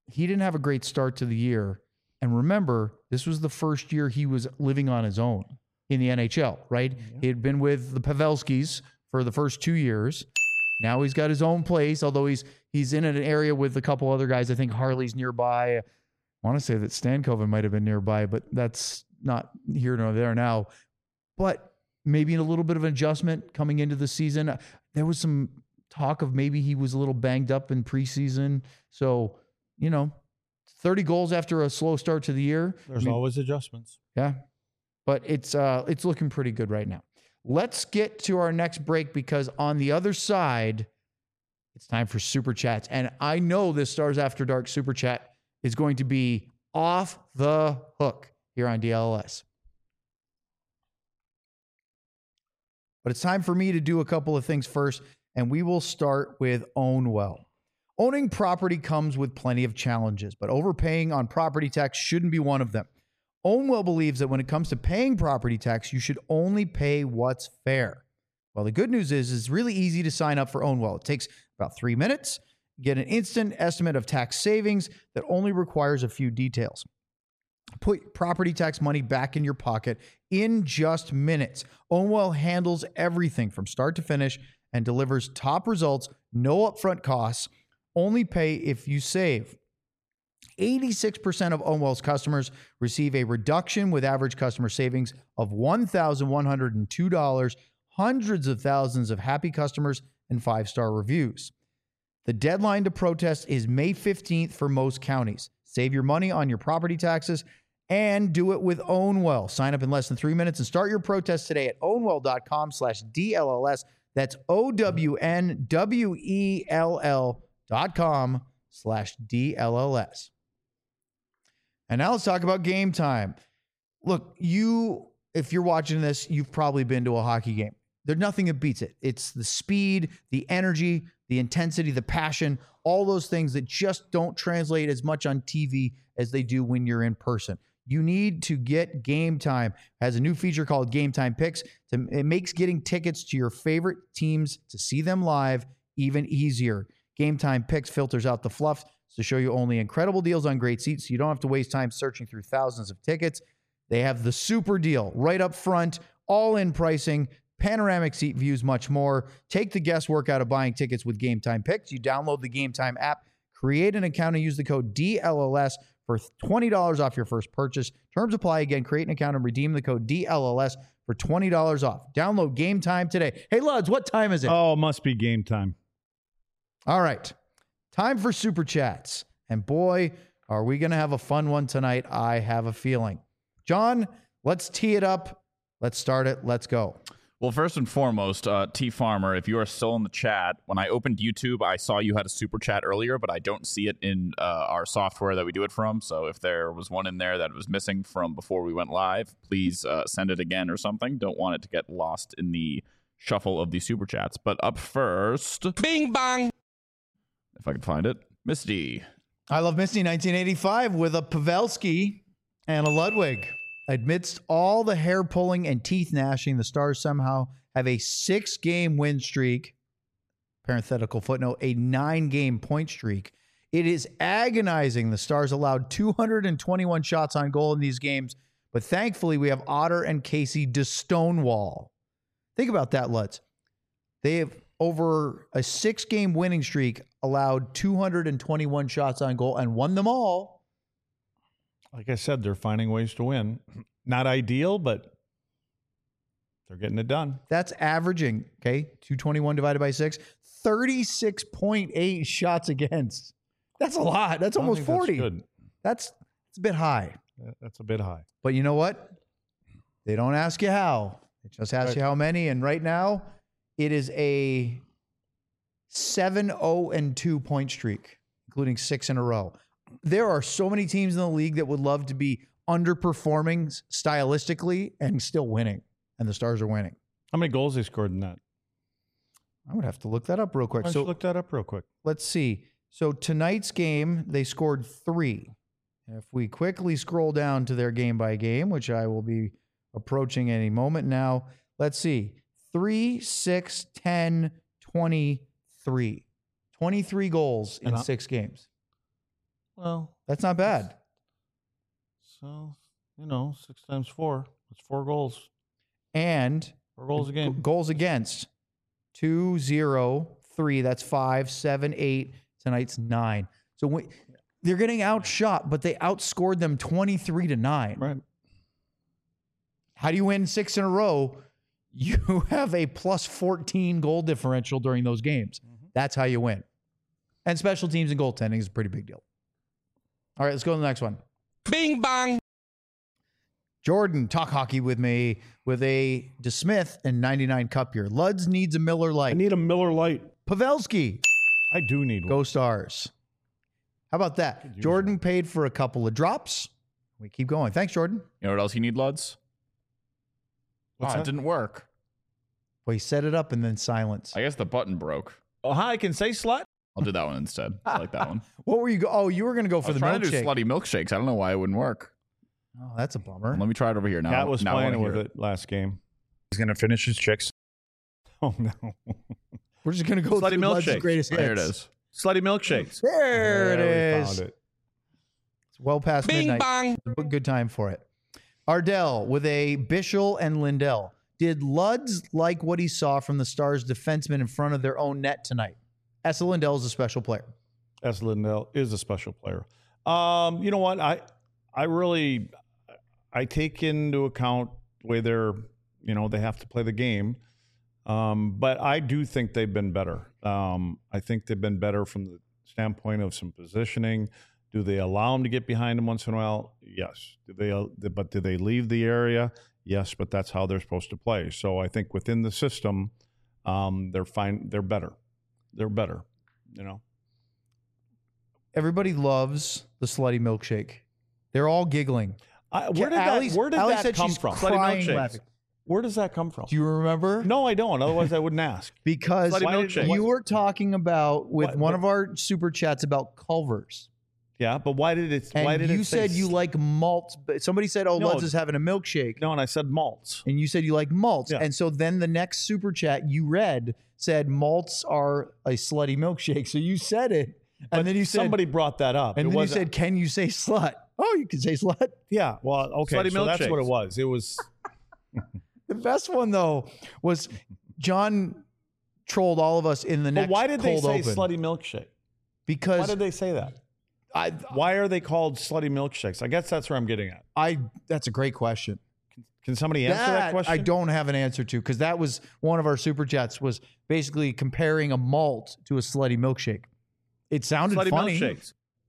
[SPEAKER 1] he didn't have a great start to the year. And remember, this was the first year he was living on his own in the NHL, right?
[SPEAKER 3] Yeah.
[SPEAKER 1] He had been with the Pavelskis for the first 2 years. Now he's got his own place, although he's in an area with a couple other guys. I think Harley's nearby. I want to say that Stankoven might have been nearby, but that's not here nor there now. But maybe a little bit of an adjustment coming into the season. There was some talk of maybe he was a little banged up in preseason. So, 30 goals after a slow start to the year.
[SPEAKER 3] There's always adjustments.
[SPEAKER 1] Yeah. But it's looking pretty good right now. Let's get to our next break because on the other side, it's time for Super Chats. And I know this Stars After Dark Super Chat is going to be off the hook here on DLS. But it's time for me to do a couple of things first, and we will start with Own Well. Owning property comes with plenty of challenges, but overpaying on property tax shouldn't be one of them. Ownwell believes that when it comes to paying property tax, you should only pay what's fair. Well, the good news is it's really easy to sign up for Ownwell. It takes about 3 minutes. Get an instant estimate of tax savings that only requires a few details. Put property tax money back in your pocket in just minutes. Ownwell handles everything from start to finish and delivers top results, no upfront costs, only pay if you save. 86% of Ownwell's customers receive a reduction with average customer savings of $1,102, hundreds of thousands of happy customers, and 5-star reviews. The deadline to protest is May 15th for most counties. Save your money on your property taxes and do it with Ownwell. Sign up in less than 3 minutes and start your protest today at ownwell.com/DLLS. That's OWNWELL.com/DLLS. And now let's talk about Game Time. Look, if you're watching this, you've probably been to a hockey game. There's nothing that beats it. It's the speed, the energy, the intensity, the passion, all those things that just don't translate as much on TV as they do when you're in person. You need to get Game Time. It has a new feature called Game Time Picks. It makes getting tickets to your favorite teams to see them live even easier. Game Time Picks filters out the fluff to show you only incredible deals on great seats so you don't have to waste time searching through thousands of tickets. They have the super deal right up front, all-in pricing, panoramic seat views, much more. Take the guesswork out of buying tickets with Game Time Picks. You download the Game Time app, create an account, and use the code DLLS for $20 off your first purchase. Terms apply. Again, create an account and redeem the code DLLS for $20 off. Download Game Time today. Hey, Luds, what time is it?
[SPEAKER 3] Oh, it must be game time.
[SPEAKER 1] All right. Time for Super Chats. And boy, are we going to have a fun one tonight. I have a feeling. John, let's tee it up. Let's start it. Let's go.
[SPEAKER 4] Well, first and foremost, T Farmer, if you are still in the chat, when I opened YouTube, I saw you had a super chat earlier, but I don't see it in our software that we do it from. So if there was one in there that was missing from before we went live, please send it again or something. Don't want it to get lost in the shuffle of the super chats. But up first,
[SPEAKER 5] Bing bang.
[SPEAKER 4] if I can find it, Misty.
[SPEAKER 1] I Love Misty 1985 with a Pavelski and a Ludwig. Amidst all the hair pulling and teeth gnashing, the Stars somehow have a 6-game win streak. Parenthetical footnote, a 9-game point streak. It is agonizing. The Stars allowed 221 shots on goal in these games, but thankfully we have Otter and Casey to stonewall. Think about that, Lutz. They have, over a 6-game winning streak, allowed 221 shots on goal and won them all.
[SPEAKER 3] Like I said, they're finding ways to win. Not ideal, but they're getting it done.
[SPEAKER 1] That's averaging, okay, 221 divided by 6, 36.8 shots against. That's a lot. That's almost 40.
[SPEAKER 3] That's good.
[SPEAKER 1] It's a bit high.
[SPEAKER 3] That's a bit high.
[SPEAKER 1] But you know what? They don't ask you how. They just ask you how many. And right now, it is a 7-0-2 point streak, including 6 in a row. There are so many teams in the league that would love to be underperforming stylistically and still winning. And the Stars are winning.
[SPEAKER 3] How many goals they scored in that?
[SPEAKER 1] I would have to look that up real quick.
[SPEAKER 3] Why don't you look that up real quick?
[SPEAKER 1] Let's see. So tonight's game, they scored 3. If we quickly scroll down to their game by game, which I will be approaching any moment now, let's see. 3, 6, 10, 23. 23 goals in 6 games.
[SPEAKER 3] Well,
[SPEAKER 1] That's not bad.
[SPEAKER 3] so, 6 times 4. That's 4 goals.
[SPEAKER 1] And
[SPEAKER 3] 4 goals a game.
[SPEAKER 1] goals against 2, 0, 3. That's 5, 7, 8. Tonight's 9. So they're getting outshot, but they outscored them 23-9.
[SPEAKER 3] Right.
[SPEAKER 1] How do you win 6 in a row? You have a plus 14 goal differential during those games. That's how you win. And special teams and goaltending is a pretty big deal. All right, let's go to the next one.
[SPEAKER 5] Bing bong.
[SPEAKER 1] Jordan, talk hockey with me with a DeSmith and 99 Cup year. Luds needs a Miller
[SPEAKER 3] I
[SPEAKER 1] Lite.
[SPEAKER 3] need a Miller Lite.
[SPEAKER 1] Pavelski,
[SPEAKER 3] I do need one.
[SPEAKER 1] go Stars. How about that? Jordan paid for a couple of drops. We keep going. Thanks, Jordan.
[SPEAKER 4] You know what else you need, Luds?
[SPEAKER 3] What's
[SPEAKER 4] It
[SPEAKER 3] that?
[SPEAKER 4] didn't work.
[SPEAKER 1] Well, he set it up and then silence.
[SPEAKER 4] I guess the button broke.
[SPEAKER 3] Oh, hi, I can say slut.
[SPEAKER 4] I'll do that one instead. I like that one.
[SPEAKER 1] What were you? Oh, you were going to go
[SPEAKER 4] I
[SPEAKER 1] for
[SPEAKER 4] was
[SPEAKER 1] the
[SPEAKER 4] trying to do
[SPEAKER 1] milkshake.
[SPEAKER 4] slutty milkshakes. I don't know why it wouldn't work.
[SPEAKER 1] Oh, that's a bummer.
[SPEAKER 4] Let me try it over here now.
[SPEAKER 3] Cat was
[SPEAKER 4] now I
[SPEAKER 3] playing
[SPEAKER 4] wanna
[SPEAKER 3] with
[SPEAKER 4] hear
[SPEAKER 3] it last game. He's going to finish his chicks. Oh, no.
[SPEAKER 1] We're just going to go
[SPEAKER 3] Slutty
[SPEAKER 1] through Luds'
[SPEAKER 3] milkshake.
[SPEAKER 1] greatest hits.
[SPEAKER 4] There it is.
[SPEAKER 3] Slutty milkshakes.
[SPEAKER 1] There it
[SPEAKER 3] we
[SPEAKER 1] is.
[SPEAKER 3] found it.
[SPEAKER 1] It's well past
[SPEAKER 5] Bing
[SPEAKER 1] midnight.
[SPEAKER 5] bong.
[SPEAKER 1] A good time for it. Ardell with a Bischel and Lindell. Did Luds like what he saw from the Stars defensemen in front of their own net tonight? Essa Lindell is a special player.
[SPEAKER 3] S. Lindell is a special player. You know what? I take into account the way they have to play the game. But I do think they've been better. I think they've been better from the standpoint of some positioning. Do they allow them to get behind them once in a while? Yes. Do they leave the area? Yes, but that's how they're supposed to play. So I think within the system, they're fine. They're better. They're better.
[SPEAKER 1] Everybody loves the slutty milkshake. They're all giggling.
[SPEAKER 3] Where did
[SPEAKER 1] Allie
[SPEAKER 3] that
[SPEAKER 1] said
[SPEAKER 3] come
[SPEAKER 1] she's
[SPEAKER 3] from?
[SPEAKER 1] crying
[SPEAKER 3] Slutty milkshakes.
[SPEAKER 1] laughing.
[SPEAKER 3] Where does that come from?
[SPEAKER 1] Do you remember?
[SPEAKER 3] No, I don't. Otherwise, I wouldn't ask.
[SPEAKER 1] Because
[SPEAKER 3] Slutty milkshake.
[SPEAKER 1] you were talking about with
[SPEAKER 3] What-
[SPEAKER 1] one
[SPEAKER 3] what-
[SPEAKER 1] of our super chats about Culver's.
[SPEAKER 3] Yeah, but why did it?
[SPEAKER 1] And
[SPEAKER 3] why did
[SPEAKER 1] you
[SPEAKER 3] it say
[SPEAKER 1] said you like malts. But somebody said, "Oh,
[SPEAKER 3] No.
[SPEAKER 1] Luds is having a milkshake,"
[SPEAKER 3] No, and I said malts.
[SPEAKER 1] and you said you like malts.
[SPEAKER 3] Yeah.
[SPEAKER 1] And so then the next super chat you read said malts are a slutty milkshake. So you said it,
[SPEAKER 3] But
[SPEAKER 1] and then you said
[SPEAKER 3] somebody brought that up.
[SPEAKER 1] and
[SPEAKER 3] It
[SPEAKER 1] then you
[SPEAKER 3] wasn't-
[SPEAKER 1] said, "Can you say slut?" Oh, you can say slut.
[SPEAKER 3] yeah. Well, okay,
[SPEAKER 4] Slutty
[SPEAKER 3] so that's what it
[SPEAKER 4] milkshakes.
[SPEAKER 3] was. It was.
[SPEAKER 1] The best one though was John trolled all of us in the
[SPEAKER 3] But
[SPEAKER 1] next
[SPEAKER 3] why did they
[SPEAKER 1] cold
[SPEAKER 3] say
[SPEAKER 1] open
[SPEAKER 3] slutty milkshake? Why
[SPEAKER 1] because
[SPEAKER 3] did they say that? Why are they called slutty milkshakes? I guess that's where I'm getting at.
[SPEAKER 1] that's a great question.
[SPEAKER 3] Can somebody answer that question?
[SPEAKER 1] I don't have an answer to because that was one of our super chats was basically comparing a malt to a slutty milkshake. It sounded
[SPEAKER 3] Slutty
[SPEAKER 1] funny.
[SPEAKER 3] milkshakes.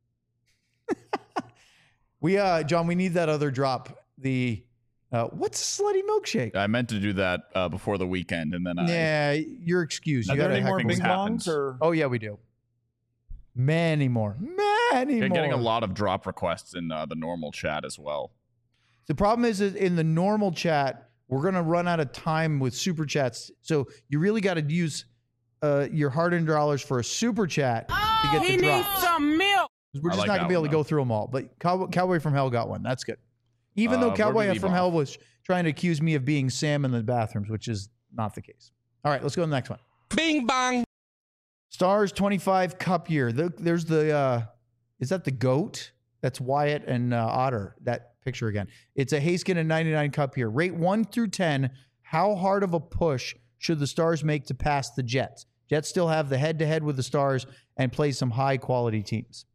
[SPEAKER 1] John, we need that other drop. The what's a slutty milkshake?
[SPEAKER 4] I meant to do that before the weekend, and then
[SPEAKER 1] Yeah, you're excused.
[SPEAKER 3] Are
[SPEAKER 1] You
[SPEAKER 3] there
[SPEAKER 1] gotta
[SPEAKER 3] any more
[SPEAKER 1] heck
[SPEAKER 3] bing
[SPEAKER 1] with-
[SPEAKER 4] happens.
[SPEAKER 3] bongs or?
[SPEAKER 1] Oh yeah, we do. Many more. Many
[SPEAKER 4] I'm
[SPEAKER 1] more.
[SPEAKER 4] getting a lot of drop requests in the normal chat as well.
[SPEAKER 1] The problem is that in the normal chat, we're going to run out of time with super chats. So you really got to use your hard-earned dollars for a super chat to get the drops.
[SPEAKER 5] some milk.
[SPEAKER 1] We're just
[SPEAKER 4] I like
[SPEAKER 1] not going
[SPEAKER 4] that
[SPEAKER 1] to be able
[SPEAKER 4] one,
[SPEAKER 1] to go through them all. But Cowboy from Hell got one. That's good. Even though
[SPEAKER 4] where do
[SPEAKER 1] Cowboy
[SPEAKER 4] we leave
[SPEAKER 1] from
[SPEAKER 4] off?
[SPEAKER 1] Hell was trying to accuse me of being Sam in the bathrooms, which is not the case. All right, let's go to the next one.
[SPEAKER 5] Bing bong.
[SPEAKER 1] Stars 25 Cup year. There's the is that the goat? That's Wyatt and Otter. That picture again. It's a Haskin and 99 Cup year. Rate 1 through 10. How hard of a push should the Stars make to pass the Jets? Jets still have the head-to-head with the Stars and play some high-quality teams.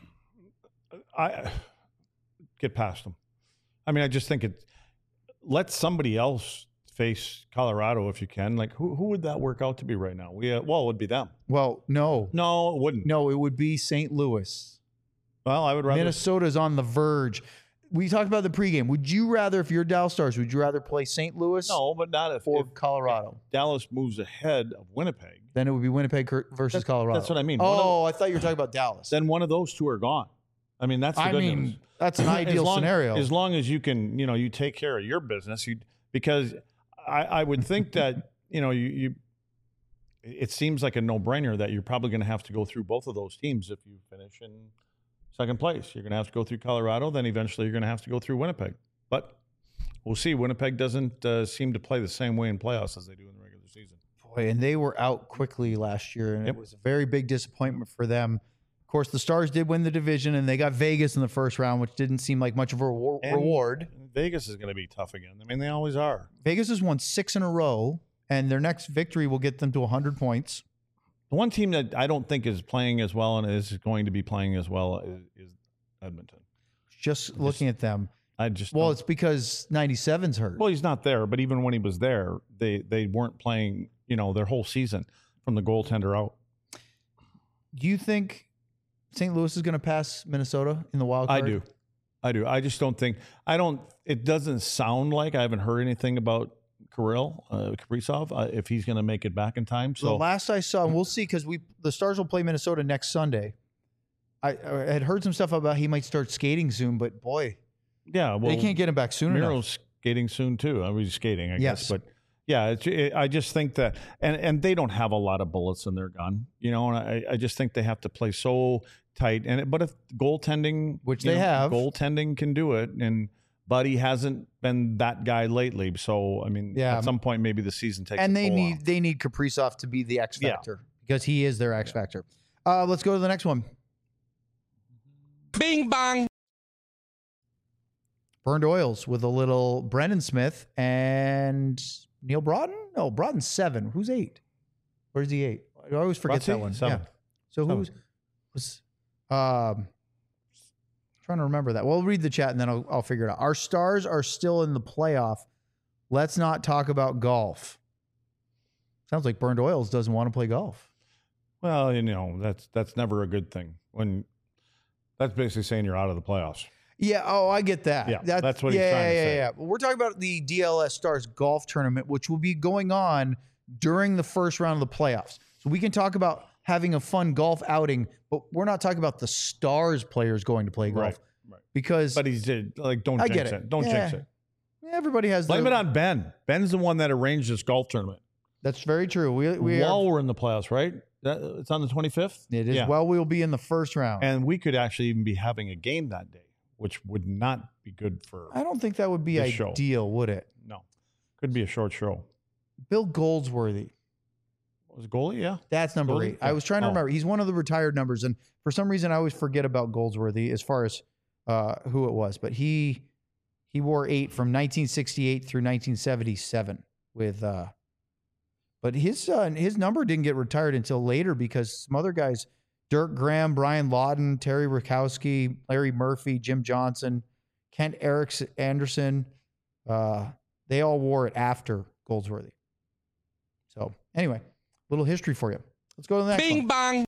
[SPEAKER 3] I get past them. I mean, I just think let somebody else face Colorado if you can. Like, who would that work out to be right now? It would be them.
[SPEAKER 1] Well, no,
[SPEAKER 3] No, it wouldn't.
[SPEAKER 1] it would be St. Louis.
[SPEAKER 3] Well, I would rather.
[SPEAKER 1] Minnesota's on the verge. We talked about the pregame. Would you rather, if you're Dallas Stars, would you rather play St. Louis
[SPEAKER 3] No, but not if,
[SPEAKER 1] or
[SPEAKER 3] if
[SPEAKER 1] Colorado?
[SPEAKER 3] Dallas moves ahead of Winnipeg.
[SPEAKER 1] Then it would be Winnipeg versus Colorado.
[SPEAKER 3] That's what I mean.
[SPEAKER 1] Oh, I thought you were talking about Dallas.
[SPEAKER 3] Then one of those two are gone. I mean, that's the
[SPEAKER 1] I
[SPEAKER 3] good
[SPEAKER 1] mean,
[SPEAKER 3] news.
[SPEAKER 1] that's an ideal scenario.
[SPEAKER 3] As long as you can, you take care of your business. Because I would think that, you it seems like a no-brainer that you're probably going to have to go through both of those teams if you finish in second place. You're going to have to go through Colorado, then eventually you're going to have to go through Winnipeg. But we'll see. Winnipeg doesn't seem to play the same way in playoffs as they do in the regular season.
[SPEAKER 1] Boy, and they were out quickly last year, and
[SPEAKER 3] Yep.
[SPEAKER 1] it was a very big disappointment for them. course, the Stars did win the division, and they got Vegas in the first round, which didn't seem like much of a reward.
[SPEAKER 3] Vegas is going to be tough again. I mean, they always are.
[SPEAKER 1] Vegas has won 6 in a row, and their next victory will get them to 100 points.
[SPEAKER 3] The one team that I don't think is playing as well and is going to be playing as well is Edmonton.
[SPEAKER 1] Just looking at them.
[SPEAKER 3] It's
[SPEAKER 1] because 97's hurt.
[SPEAKER 3] Well, he's not there, but even when he was there, they weren't playing, their whole season from the goaltender out.
[SPEAKER 1] Do you think St. Louis is going to pass Minnesota in the wild card?
[SPEAKER 3] I do. I just don't think it doesn't sound like I haven't heard anything about Kaprizov if he's going to make it back in time. So
[SPEAKER 1] the last I saw, and we'll see, because the Stars will play Minnesota next Sunday. I had heard some stuff about he might start skating soon, but boy,
[SPEAKER 3] yeah, well,
[SPEAKER 1] they can't get him back soon enough.
[SPEAKER 3] Miro's skating soon too. I was skating, I
[SPEAKER 1] Yes.
[SPEAKER 3] guess, but yeah, I just think that, and they don't have a lot of bullets in their gun, and I just think they have to play so tight. But if goaltending,
[SPEAKER 1] Which they have.
[SPEAKER 3] goaltending can do it, and Buddy hasn't been that guy lately. So I mean,
[SPEAKER 1] Yeah.
[SPEAKER 3] at some point maybe the season takes.
[SPEAKER 1] And
[SPEAKER 3] a toll on
[SPEAKER 1] they need Kaprizov to be the X
[SPEAKER 3] Yeah.
[SPEAKER 1] factor because he is their X factor. Let's go to the next one.
[SPEAKER 5] Bing bang.
[SPEAKER 1] Burned Oils with a little Brendan Smith and Neil Broughton. No, Broughton's 7. Who's 8? Where's he 8? I always forget
[SPEAKER 3] Brotzy?
[SPEAKER 1] that one.
[SPEAKER 3] 7.
[SPEAKER 1] Yeah. So who was trying to remember that. We'll read the chat and then I'll figure it out. Our Stars are still in the playoff. Let's not talk about golf. Sounds like Burned Oils doesn't want to play golf.
[SPEAKER 3] Well, that's never a good thing. When that's basically saying you're out of the playoffs.
[SPEAKER 1] Yeah. Oh, I get that.
[SPEAKER 3] Yeah, that's what he's trying to say.
[SPEAKER 1] Yeah. Well, we're talking about the DLS Stars golf tournament, which will be going on during the first round of the playoffs. So we can talk about having a fun golf outing, but we're not talking about the Stars players going to play golf.
[SPEAKER 3] Right.
[SPEAKER 1] Because
[SPEAKER 3] But he's like, don't
[SPEAKER 1] I
[SPEAKER 3] jinx
[SPEAKER 1] get
[SPEAKER 3] it. Don't jinx it.
[SPEAKER 1] everybody has
[SPEAKER 3] Blame it on Ben. Ben's the one that arranged this golf tournament.
[SPEAKER 1] That's very true.
[SPEAKER 3] While we're in the playoffs, right? It's on the 25th?
[SPEAKER 1] It is.
[SPEAKER 3] Yeah.
[SPEAKER 1] Well, we'll be in the first round.
[SPEAKER 3] And we could actually even be having a game that day, which would not be good for
[SPEAKER 1] I don't think that would be
[SPEAKER 3] this show.
[SPEAKER 1] ideal, would it?
[SPEAKER 3] No. Could be a short show.
[SPEAKER 1] Bill Goldsworthy.
[SPEAKER 3] Was it goalie? Yeah.
[SPEAKER 1] That's number
[SPEAKER 3] Goldie?
[SPEAKER 1] 8. I was trying to remember. He's one of the retired numbers, and for some reason I always forget about Goldsworthy as far as who it was. But he wore 8 from 1968 through 1977 with but his number didn't get retired until later because some other guys, Dirk Graham, Brian Lawton, Terry Rakowski, Larry Murphy, Jim Johnson, Kent Anderson, they all wore it after Goldsworthy. So anyway, little history for you. Let's go to the next one.
[SPEAKER 5] Bing bang.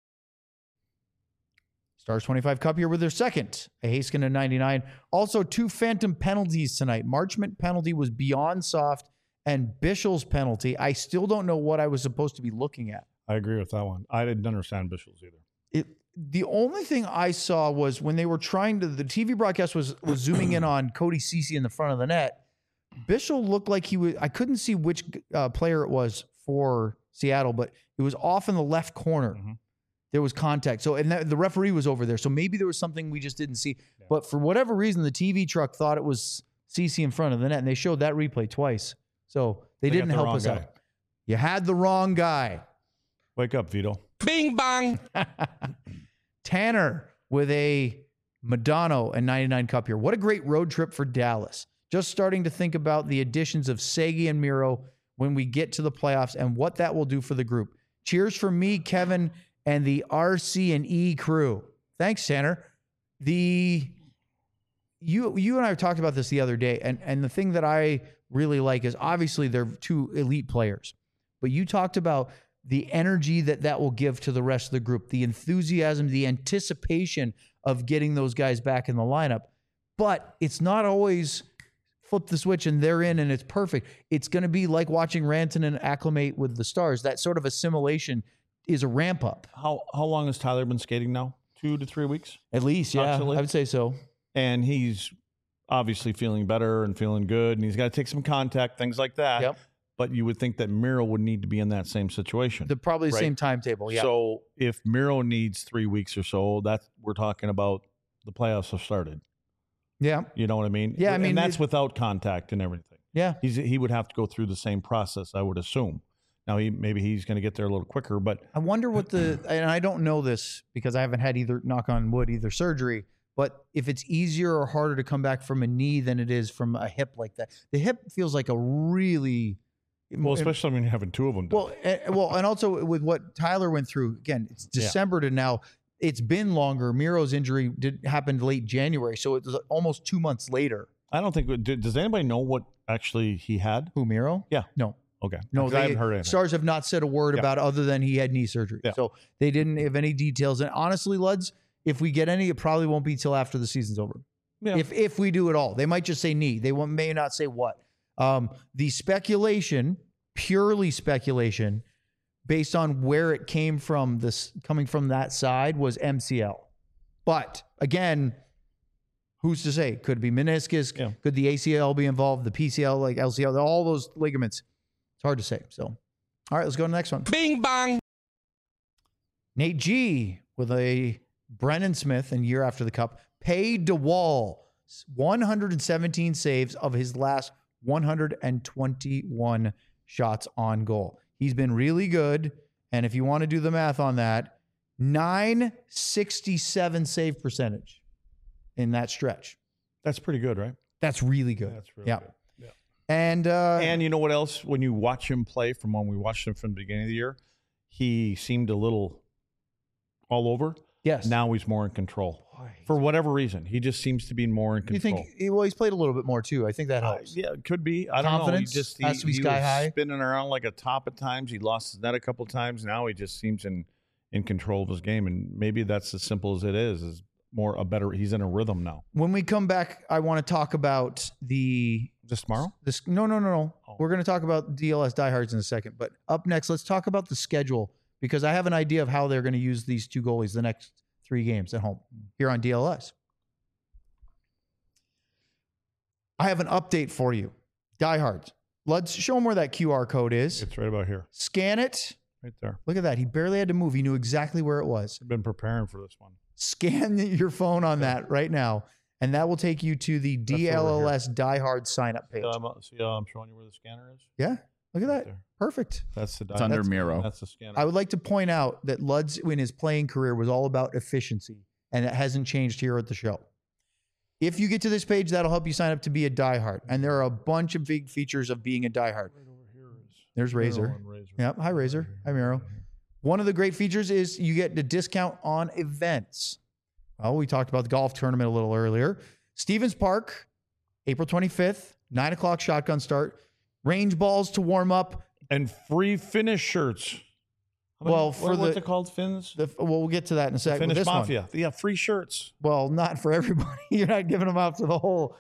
[SPEAKER 1] Stars 25 Cup here with their second, a Haskin in 99. Also, 2 phantom penalties tonight. Marchment penalty was beyond soft, and Bischel's penalty, I still don't know what I was supposed to be looking at.
[SPEAKER 3] I agree with that one. I didn't understand Bischel's either.
[SPEAKER 1] The only thing I saw was when they were trying to, the TV broadcast was zooming in on Cody Ceci in the front of the net. Bischel looked like he was, I couldn't see which player it was for Seattle, but it was off in the left corner.
[SPEAKER 3] Mhm.
[SPEAKER 1] There was contact. So, and the referee was over there. So maybe there was something we just didn't see. Yeah. But for whatever reason, the TV truck thought it was Ceci in front of the net, and they showed that replay twice. So they didn't help us out. You had the wrong guy.
[SPEAKER 3] Wake up, Vito.
[SPEAKER 5] Bing bang.
[SPEAKER 1] Tanner with a Madonna and 99 Cup here. What a great road trip for Dallas. Just starting to think about the additions of Segi and Miro when we get to the playoffs and what that will do for the group. Cheers for me, Kevin, and the RC&E crew. Thanks, Tanner. You and I talked about this the other day, and the thing that I really like is obviously they're 2 elite players, but you talked about the energy that will give to the rest of the group, the enthusiasm, the anticipation of getting those guys back in the lineup. But it's not always flip the switch and they're in and it's perfect. It's going to be like watching Rantanen acclimate with the Stars. That sort of assimilation is a ramp up.
[SPEAKER 3] How long has Tyler been skating now? 2 to 3 weeks?
[SPEAKER 1] At least, yeah.
[SPEAKER 3] Absolutely.
[SPEAKER 1] I would say so.
[SPEAKER 3] And he's obviously feeling better and feeling good, and he's got to take some contact, things like that.
[SPEAKER 1] Yep.
[SPEAKER 3] But you would think that Miro would need to be in that same situation.
[SPEAKER 1] Probably the
[SPEAKER 3] Right.
[SPEAKER 1] same timetable, yeah.
[SPEAKER 3] So if Miro needs 3 weeks or so, we're talking about the playoffs have started.
[SPEAKER 1] Yeah.
[SPEAKER 3] You know what I mean?
[SPEAKER 1] Yeah, I mean,
[SPEAKER 3] and that's without contact and everything.
[SPEAKER 1] Yeah.
[SPEAKER 3] He would have to go through the same process, I would assume. Now maybe he's going to get there a little quicker, but
[SPEAKER 1] I wonder what and I don't know this because I haven't had either, knock on wood, either surgery, but if it's easier or harder to come back from a knee than it is from a hip like that. The hip feels like a really...
[SPEAKER 3] well, especially when you're having two of them done.
[SPEAKER 1] Well, and also with what Tyler went through, again, it's December to now. It's been longer. Miro's injury happened late January, so it was almost 2 months later.
[SPEAKER 3] I don't think. Does anybody know what actually he had?
[SPEAKER 1] Who, Miro?
[SPEAKER 3] Yeah.
[SPEAKER 1] No.
[SPEAKER 3] Okay.
[SPEAKER 1] No,
[SPEAKER 3] I haven't heard anything.
[SPEAKER 1] Stars have not said a word about it other than he had knee surgery.
[SPEAKER 3] Yeah.
[SPEAKER 1] So they didn't have any details. And honestly, Luds, if we get any, it probably won't be till after the season's over.
[SPEAKER 3] Yeah.
[SPEAKER 1] If we do it all. They might just say knee. They may not say what. The speculation, purely speculation, based on where it came from, coming from that side, was MCL. But again, who's to say? Could be meniscus.
[SPEAKER 3] Yeah.
[SPEAKER 1] Could the ACL be involved? The PCL, like LCL, all those ligaments. It's hard to say. So, all right, let's go to the next one.
[SPEAKER 5] Bing bang.
[SPEAKER 1] Nate G with a Brennan Smith and year after the Cup. Pay DeWall 117 saves of his last 121 shots on goal. He's been really good. And if you want to do the math on that, 967 save percentage in that stretch.
[SPEAKER 3] That's pretty good, right?
[SPEAKER 1] That's really good.
[SPEAKER 3] That's really
[SPEAKER 1] yeah.
[SPEAKER 3] good. Yeah.
[SPEAKER 1] And
[SPEAKER 3] you know what else? When you watch him play from when we watched him from the beginning of the year, he seemed a little all over.
[SPEAKER 1] Yes.
[SPEAKER 3] Now he's more in control. For whatever reason, he just seems to be more in control.
[SPEAKER 1] You think? Well, he's played a little bit more too. I think that helps.
[SPEAKER 3] Yeah, it could be. I don't know.
[SPEAKER 1] Confidence has to be sky
[SPEAKER 3] was
[SPEAKER 1] high.
[SPEAKER 3] Spinning around like a top at times. He lost his net a couple times. Now he just seems in control of his game, and maybe that's as simple as it is. He's in a rhythm now.
[SPEAKER 1] When we come back, I want to talk about
[SPEAKER 3] This tomorrow?
[SPEAKER 1] No.
[SPEAKER 3] Oh.
[SPEAKER 1] We're going to talk about DLS diehards in a second. But up next, let's talk about the schedule because I have an idea of how they're going to use these two goalies the next 3 games at home here on DLS. I have an update for you. Diehards. Let's show them where that QR code is.
[SPEAKER 3] It's right about here.
[SPEAKER 1] Scan it.
[SPEAKER 3] Right there.
[SPEAKER 1] Look at that. He barely had to move. He knew exactly where it was.
[SPEAKER 3] I've been preparing for this one.
[SPEAKER 1] Scan your phone on that right now, and that will take you to the DLLS diehard sign-up page.
[SPEAKER 3] See how I'm showing you where the scanner is?
[SPEAKER 1] Yeah. Look at that.
[SPEAKER 3] There.
[SPEAKER 1] Perfect.
[SPEAKER 3] That's the
[SPEAKER 4] It's under Miro.
[SPEAKER 3] That's the scanner.
[SPEAKER 1] I would like to point out that Luds in his playing career was all about efficiency, and it hasn't changed here at the show. If you get to this page, that'll help you sign up to be a diehard. And there are a bunch of big features of being a diehard.
[SPEAKER 3] Right over here is
[SPEAKER 1] There's Razor. Yep. Hi, Razor. Hi, Miro. One of the great features is you get the discount on events. Well, we talked about the golf tournament a little earlier. Stevens Park, April 25th, 9 o'clock shotgun start. Range balls to warm up.
[SPEAKER 3] And free finish shirts.
[SPEAKER 1] Well,
[SPEAKER 3] what's it called? Fins?
[SPEAKER 1] We'll get to that in a second.
[SPEAKER 3] Finish
[SPEAKER 1] This
[SPEAKER 3] Mafia.
[SPEAKER 1] one.
[SPEAKER 3] Yeah, free shirts.
[SPEAKER 1] Well, not for everybody. You're not giving them out to the whole.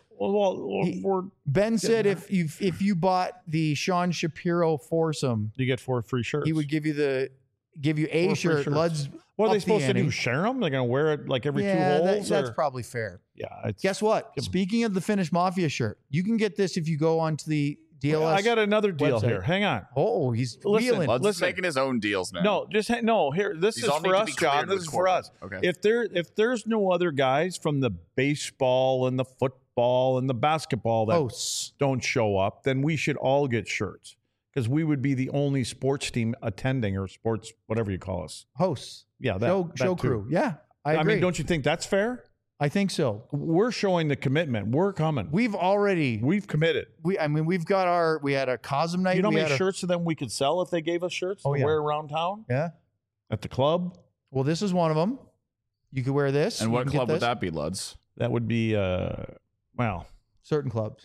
[SPEAKER 1] Ben said if you bought the Sean Shapiro foursome,
[SPEAKER 3] you get 4 free shirts.
[SPEAKER 1] he would give you a
[SPEAKER 3] 4 free
[SPEAKER 1] shirt.
[SPEAKER 3] shirts.
[SPEAKER 1] Luds.
[SPEAKER 3] What are
[SPEAKER 1] up
[SPEAKER 3] they
[SPEAKER 1] the
[SPEAKER 3] supposed to do?
[SPEAKER 1] ante.
[SPEAKER 3] Share them? They're going to wear it like every 2
[SPEAKER 1] Yeah,
[SPEAKER 3] holes?
[SPEAKER 1] that's
[SPEAKER 3] or-
[SPEAKER 1] probably fair.
[SPEAKER 3] Yeah.
[SPEAKER 1] Guess what? Speaking of the Finnish Mafia shirt, you can get this if you go onto the DLS.
[SPEAKER 3] I got another deal
[SPEAKER 1] website.
[SPEAKER 3] here. Hang on.
[SPEAKER 1] Oh, he's
[SPEAKER 3] Listen,
[SPEAKER 1] wheeling.
[SPEAKER 4] Lud's
[SPEAKER 3] Listen.
[SPEAKER 4] making his own deals now.
[SPEAKER 3] No, just here. This
[SPEAKER 4] These
[SPEAKER 3] is
[SPEAKER 4] all need
[SPEAKER 3] for
[SPEAKER 4] to
[SPEAKER 3] us,
[SPEAKER 4] be
[SPEAKER 3] John.
[SPEAKER 4] cleared
[SPEAKER 3] This
[SPEAKER 4] with
[SPEAKER 3] is for us.
[SPEAKER 4] corporate. Okay.
[SPEAKER 3] If there's no other guys from the baseball and the football and the basketball that
[SPEAKER 1] Hosts.
[SPEAKER 3] don't show up, then we should all get shirts because we would be the only sports team attending or sports whatever you call us.
[SPEAKER 1] Hosts.
[SPEAKER 3] Yeah,
[SPEAKER 1] Show
[SPEAKER 3] that too.
[SPEAKER 1] crew. Yeah, I agree.
[SPEAKER 3] I mean, don't you think that's fair?
[SPEAKER 1] I think so.
[SPEAKER 3] We're showing the commitment. We're coming.
[SPEAKER 1] We've
[SPEAKER 3] committed.
[SPEAKER 1] we've got we had a Cosm night.
[SPEAKER 3] You know how
[SPEAKER 1] we
[SPEAKER 3] many
[SPEAKER 1] had
[SPEAKER 3] shirts of them we could sell if they gave us shirts
[SPEAKER 1] Oh,
[SPEAKER 3] to
[SPEAKER 1] yeah.
[SPEAKER 3] wear around town
[SPEAKER 1] Yeah.
[SPEAKER 3] at the club?
[SPEAKER 1] Well, this is one of them. You could wear this.
[SPEAKER 4] And
[SPEAKER 1] You
[SPEAKER 4] what
[SPEAKER 1] can get
[SPEAKER 4] club would
[SPEAKER 1] this.
[SPEAKER 4] that be, Luds?
[SPEAKER 3] That would be well.
[SPEAKER 1] Certain clubs.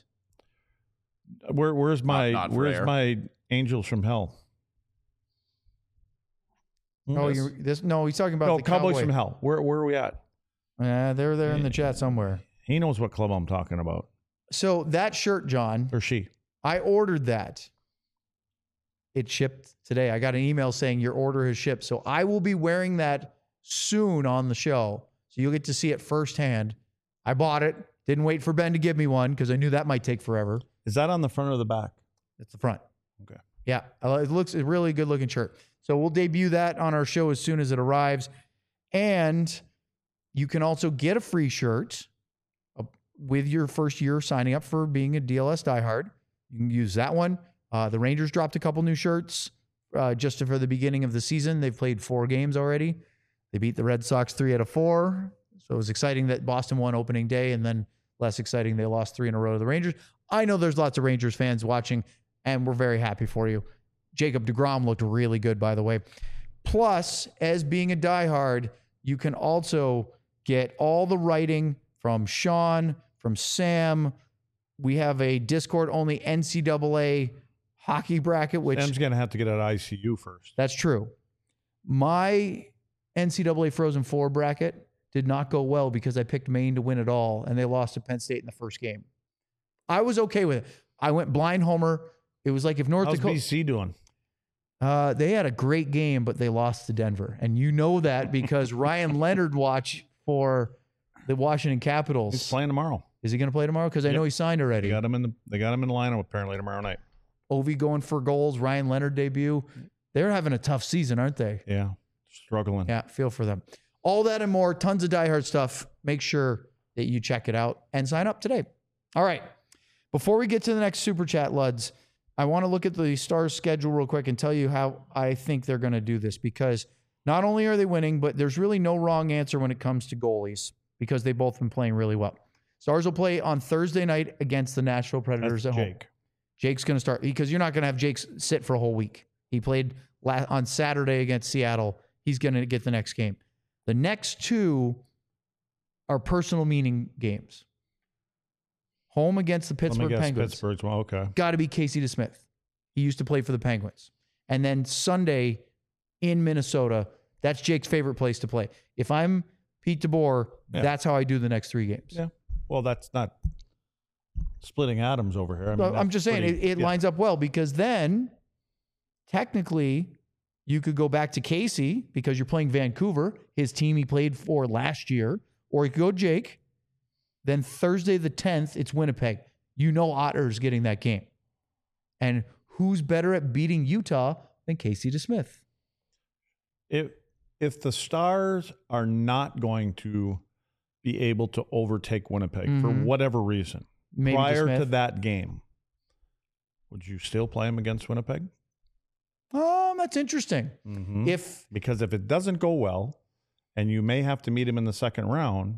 [SPEAKER 3] Where's
[SPEAKER 4] Not rare.
[SPEAKER 3] my Angels from Hell?
[SPEAKER 1] Oh, no, he's talking about
[SPEAKER 3] No,
[SPEAKER 1] the
[SPEAKER 3] Cowboys
[SPEAKER 1] Cowboy.
[SPEAKER 3] from Hell. Where are we at?
[SPEAKER 1] They're there in the chat somewhere.
[SPEAKER 3] He knows what club I'm talking about.
[SPEAKER 1] So that shirt, John,
[SPEAKER 3] Or she.
[SPEAKER 1] I ordered that. It shipped today. I got an email saying your order has shipped. So I will be wearing that soon on the show. So you'll get to see it firsthand. I bought it. Didn't wait for Ben to give me one because I knew that might take forever.
[SPEAKER 3] Is that on the front or the back?
[SPEAKER 1] It's the front.
[SPEAKER 3] Okay.
[SPEAKER 1] Yeah. It looks a really good looking shirt. So we'll debut that on our show as soon as it arrives. And you can also get a free shirt with your first year signing up for being a DLS diehard. You can use that one. The Rangers dropped a couple new shirts. just for the beginning of the season. They've played 4 games already. They beat the Red Sox 3 out of 4. So it was exciting that Boston won opening day, and then less exciting they lost 3 in a row to the Rangers. I know there's lots of Rangers fans watching, and we're very happy for you. Jacob deGrom looked really good, by the way. Plus, as being a diehard, you can also get all the writing from Sean, from Sam. We have a Discord-only NCAA hockey bracket, which...
[SPEAKER 3] Sam's going to have to get out of ICU first.
[SPEAKER 1] That's true. My NCAA Frozen Four bracket did not go well because I picked Maine to win it all, and they lost to Penn State in the first game. I was okay with it. I went blind homer. It was like if North
[SPEAKER 3] How's
[SPEAKER 1] Dakota...
[SPEAKER 3] BC doing?
[SPEAKER 1] They had a great game, but they lost to Denver. And you know that because Ryan Leonard watch for the Washington Capitals.
[SPEAKER 3] He's playing tomorrow.
[SPEAKER 1] Is he going to play tomorrow? Because I know he signed already.
[SPEAKER 3] They got him in the lineup apparently tomorrow night.
[SPEAKER 1] Ovi going for goals. Ryan Leonard debut. They're having a tough season, aren't they?
[SPEAKER 3] Yeah, struggling.
[SPEAKER 1] Yeah, feel for them. All that and more, tons of diehard stuff. Make sure that you check it out and sign up today. All right. Before we get to the next Super Chat, Luds, I want to look at the Stars schedule real quick and tell you how I think they're going to do this, because not only are they winning, but there's really no wrong answer when it comes to goalies because they've both been playing really well. Stars will play on Thursday night against the Nashville Predators
[SPEAKER 3] That's
[SPEAKER 1] at
[SPEAKER 3] Jake.
[SPEAKER 1] home. Jake's going to start because you're not going to have Jake sit for a whole week. He played on Saturday against Seattle. He's going to get the next game. The next 2 are personal meaning games. Home against the Pittsburgh Penguins.
[SPEAKER 3] Pittsburgh's well, okay.
[SPEAKER 1] Got to be Casey DeSmith. He used to play for the Penguins. And then Sunday in Minnesota, that's Jake's favorite place to play. If I'm Pete DeBoer, that's how I do the next 3 games.
[SPEAKER 3] Yeah. Well, that's not splitting atoms over here. I mean,
[SPEAKER 1] I'm just saying it lines up well because then technically you could go back to Casey because you're playing Vancouver, his team he played for last year, or you could go Jake. Then Thursday the 10th, it's Winnipeg. You know Otter's getting that game. And who's better at beating Utah than Casey DeSmith?
[SPEAKER 3] If the Stars are not going to be able to overtake Winnipeg for whatever reason,
[SPEAKER 1] Maybe
[SPEAKER 3] prior
[SPEAKER 1] DeSmith.
[SPEAKER 3] to that game, would you still play him against Winnipeg?
[SPEAKER 1] That's interesting.
[SPEAKER 3] Because if it doesn't go well, and you may have to meet him in the second round,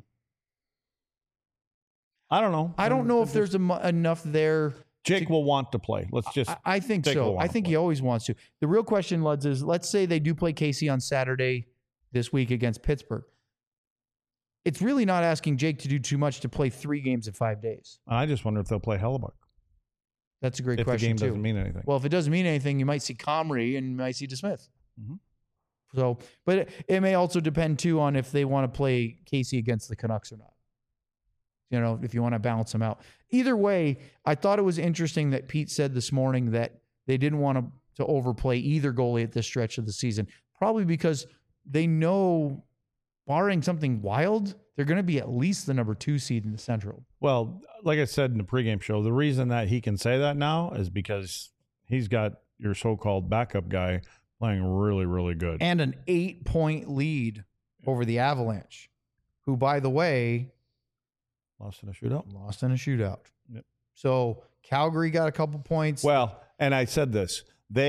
[SPEAKER 3] I don't know.
[SPEAKER 1] I don't know if there's enough there.
[SPEAKER 3] Jake will want to play. Let's just.
[SPEAKER 1] I think
[SPEAKER 3] Jake will
[SPEAKER 1] so.
[SPEAKER 3] want
[SPEAKER 1] I
[SPEAKER 3] to
[SPEAKER 1] think
[SPEAKER 3] play.
[SPEAKER 1] he always wants to. The real question, Luds, is let's say they do play Casey on Saturday this week against Pittsburgh. It's really not asking Jake to do too much to play 3 games in 5 days.
[SPEAKER 3] I just wonder if they'll play Hellebuck.
[SPEAKER 1] That's a great
[SPEAKER 3] If the
[SPEAKER 1] question
[SPEAKER 3] game
[SPEAKER 1] too.
[SPEAKER 3] doesn't mean anything.
[SPEAKER 1] Well, if it doesn't mean anything, you might see Comrie and you might see DeSmith.
[SPEAKER 3] Mhm.
[SPEAKER 1] So, but it may also depend too on if they want to play Casey against the Canucks or not. You know, if you want to balance them out. Either way, I thought it was interesting that Pete said this morning that they didn't want to overplay either goalie at this stretch of the season, probably because they know, barring something wild, they're going to be at least the number 2 seed in the Central.
[SPEAKER 3] Well, like I said in the pregame show, the reason that he can say that now is because he's got your so-called backup guy playing really, really good.
[SPEAKER 1] And an 8-point lead over the Avalanche, who, by the way,
[SPEAKER 3] Lost in a shootout.
[SPEAKER 1] lost in a shootout.
[SPEAKER 3] Yep.
[SPEAKER 1] So Calgary got a couple points.
[SPEAKER 3] Well, and I said this.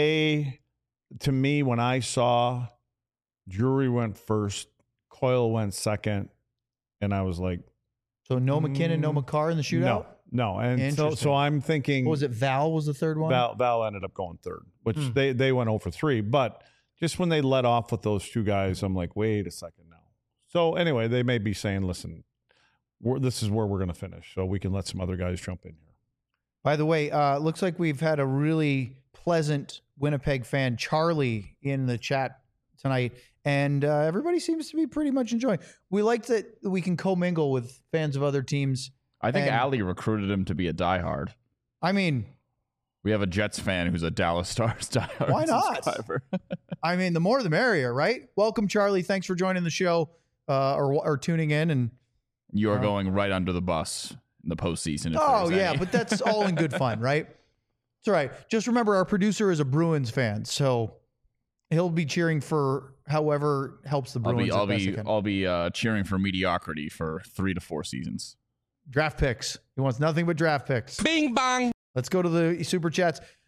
[SPEAKER 3] To me, when I saw Drury went first, Coyle went second, and I was like,
[SPEAKER 1] So no McKinnon, no McCarr in the shootout?
[SPEAKER 3] No. And
[SPEAKER 1] Interesting.
[SPEAKER 3] so I'm thinking.
[SPEAKER 1] What was it? Val was the third one?
[SPEAKER 3] Val ended up going third, which they went 0 for 3. But just when they let off with those 2 guys, I'm like, wait a second now. So anyway, they may be saying, listen, this is where we're going to finish, so we can let some other guys jump in here.
[SPEAKER 1] By the way, looks like we've had a really pleasant Winnipeg fan, Charlie, in the chat tonight, and everybody seems to be pretty much enjoying. We like that we can commingle with fans of other teams.
[SPEAKER 4] I think
[SPEAKER 1] And-
[SPEAKER 4] Ali recruited him to be a diehard.
[SPEAKER 1] I mean,
[SPEAKER 4] We have a Jets fan who's a Dallas Stars diehard.
[SPEAKER 1] Why not?
[SPEAKER 4] subscriber.
[SPEAKER 1] the more the merrier, right? Welcome, Charlie. Thanks for joining the show or tuning in. And
[SPEAKER 4] You are going right under the bus in the postseason. if
[SPEAKER 1] oh
[SPEAKER 4] there's
[SPEAKER 1] yeah,
[SPEAKER 4] any.
[SPEAKER 1] but that's all in good fun, right? It's all right. Just remember, our producer is a Bruins fan, so he'll be cheering for however helps the Bruins.
[SPEAKER 4] I'll be cheering for mediocrity for 3 to 4 seasons.
[SPEAKER 1] Draft picks. He wants nothing but draft picks.
[SPEAKER 5] Bing bang.
[SPEAKER 1] Let's go to the super chats.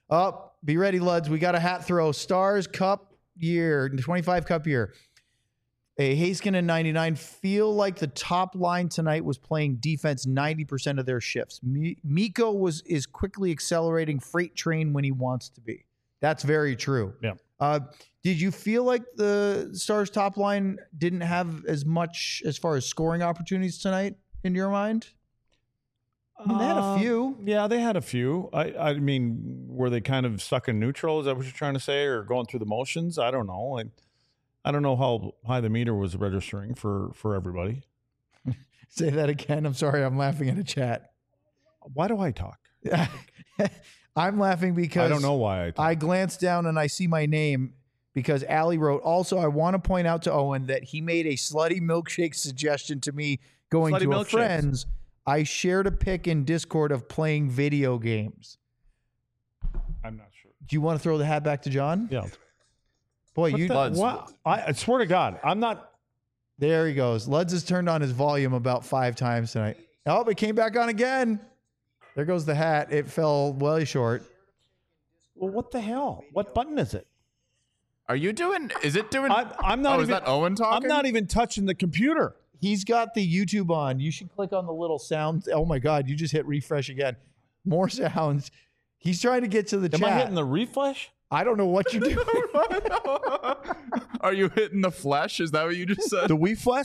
[SPEAKER 1] Up. Be ready, Luds. We got a hat throw. Stars Cup year, 25 Cup year. A Haskinen 99 feel like the top line tonight was playing defense 90% of their shifts. Mikko is quickly accelerating freight train when he wants to be. That's very true.
[SPEAKER 3] Yeah.
[SPEAKER 1] Did you feel like the Stars top line didn't have as much as far as scoring opportunities tonight in your mind? I mean, they had a few.
[SPEAKER 3] Yeah, they had a few. I mean, were they kind of stuck in neutral? Is that what you're trying to say? Or going through the motions? I don't know. I don't know how high the meter was registering for everybody.
[SPEAKER 1] Say that again. I'm sorry. I'm laughing at a chat.
[SPEAKER 3] Why do I talk?
[SPEAKER 1] I'm laughing because
[SPEAKER 3] I don't know why I talk.
[SPEAKER 1] I glanced down and I see my name because Allie wrote, also, I want to point out to Owen that he made a slutty milkshake suggestion to me going
[SPEAKER 3] Slutty
[SPEAKER 1] to a
[SPEAKER 3] milkshakes.
[SPEAKER 1] friend's. I shared a pic in Discord of playing video games.
[SPEAKER 3] I'm not sure.
[SPEAKER 1] Do you want to throw the hat back to John?
[SPEAKER 3] Yeah.
[SPEAKER 1] Boy,
[SPEAKER 3] What? I swear to God, I'm not.
[SPEAKER 1] There he goes. Luds has turned on his volume about 5 times tonight. Oh, it came back on again. There goes the hat. It fell well short.
[SPEAKER 3] Well, what the hell? What button is it?
[SPEAKER 4] Are you doing? Is it doing?
[SPEAKER 3] I'm not
[SPEAKER 4] Oh,
[SPEAKER 3] even.
[SPEAKER 4] is that Owen talking?
[SPEAKER 3] I'm not even touching the computer.
[SPEAKER 1] He's got the YouTube on. You should click on the little sound. Oh my God, you just hit refresh again. More sounds. He's trying to get to the
[SPEAKER 3] Am
[SPEAKER 1] chat.
[SPEAKER 3] I hitting the refresh?
[SPEAKER 1] I don't know what you're doing.
[SPEAKER 4] Are you hitting the flesh? Is that what you just said?
[SPEAKER 3] The Wii flesh?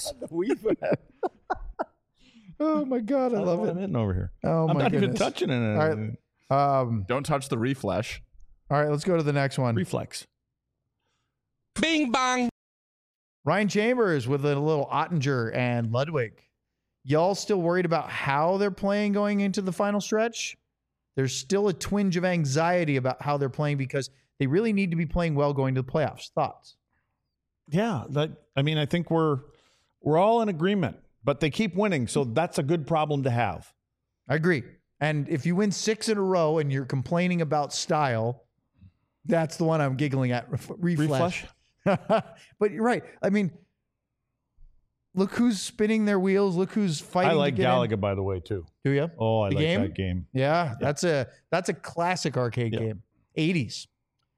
[SPEAKER 1] Oh my God, I love
[SPEAKER 3] what
[SPEAKER 1] it.
[SPEAKER 3] I'm hitting over here.
[SPEAKER 1] Oh
[SPEAKER 3] I'm
[SPEAKER 1] my
[SPEAKER 3] not even
[SPEAKER 1] goodness.
[SPEAKER 3] touching it.
[SPEAKER 1] All right.
[SPEAKER 4] Don't touch the reflesh.
[SPEAKER 1] All right, let's go to the next one.
[SPEAKER 3] Reflex.
[SPEAKER 5] Bing bang.
[SPEAKER 1] Ryan Chambers with a little Ottinger and Ludwig. Y'all still worried about how they're playing going into the final stretch? There's still a twinge of anxiety about how they're playing because they really need to be playing well going to the playoffs. Thoughts?
[SPEAKER 3] Yeah, I think we're all in agreement, but they keep winning, so that's a good problem to have.
[SPEAKER 1] I agree. And if you win 6 in a row and you're complaining about style, that's the one I'm giggling at. Reflesh. But you're right. I mean, look who's spinning their wheels. Look who's fighting.
[SPEAKER 3] I like
[SPEAKER 1] to get
[SPEAKER 3] Galaga,
[SPEAKER 1] in.
[SPEAKER 3] by the way, too.
[SPEAKER 1] Do you?
[SPEAKER 3] Oh, I
[SPEAKER 1] The
[SPEAKER 3] like
[SPEAKER 1] game?
[SPEAKER 3] that game.
[SPEAKER 1] Yeah, that's a classic arcade
[SPEAKER 3] Yeah.
[SPEAKER 1] game. 80s.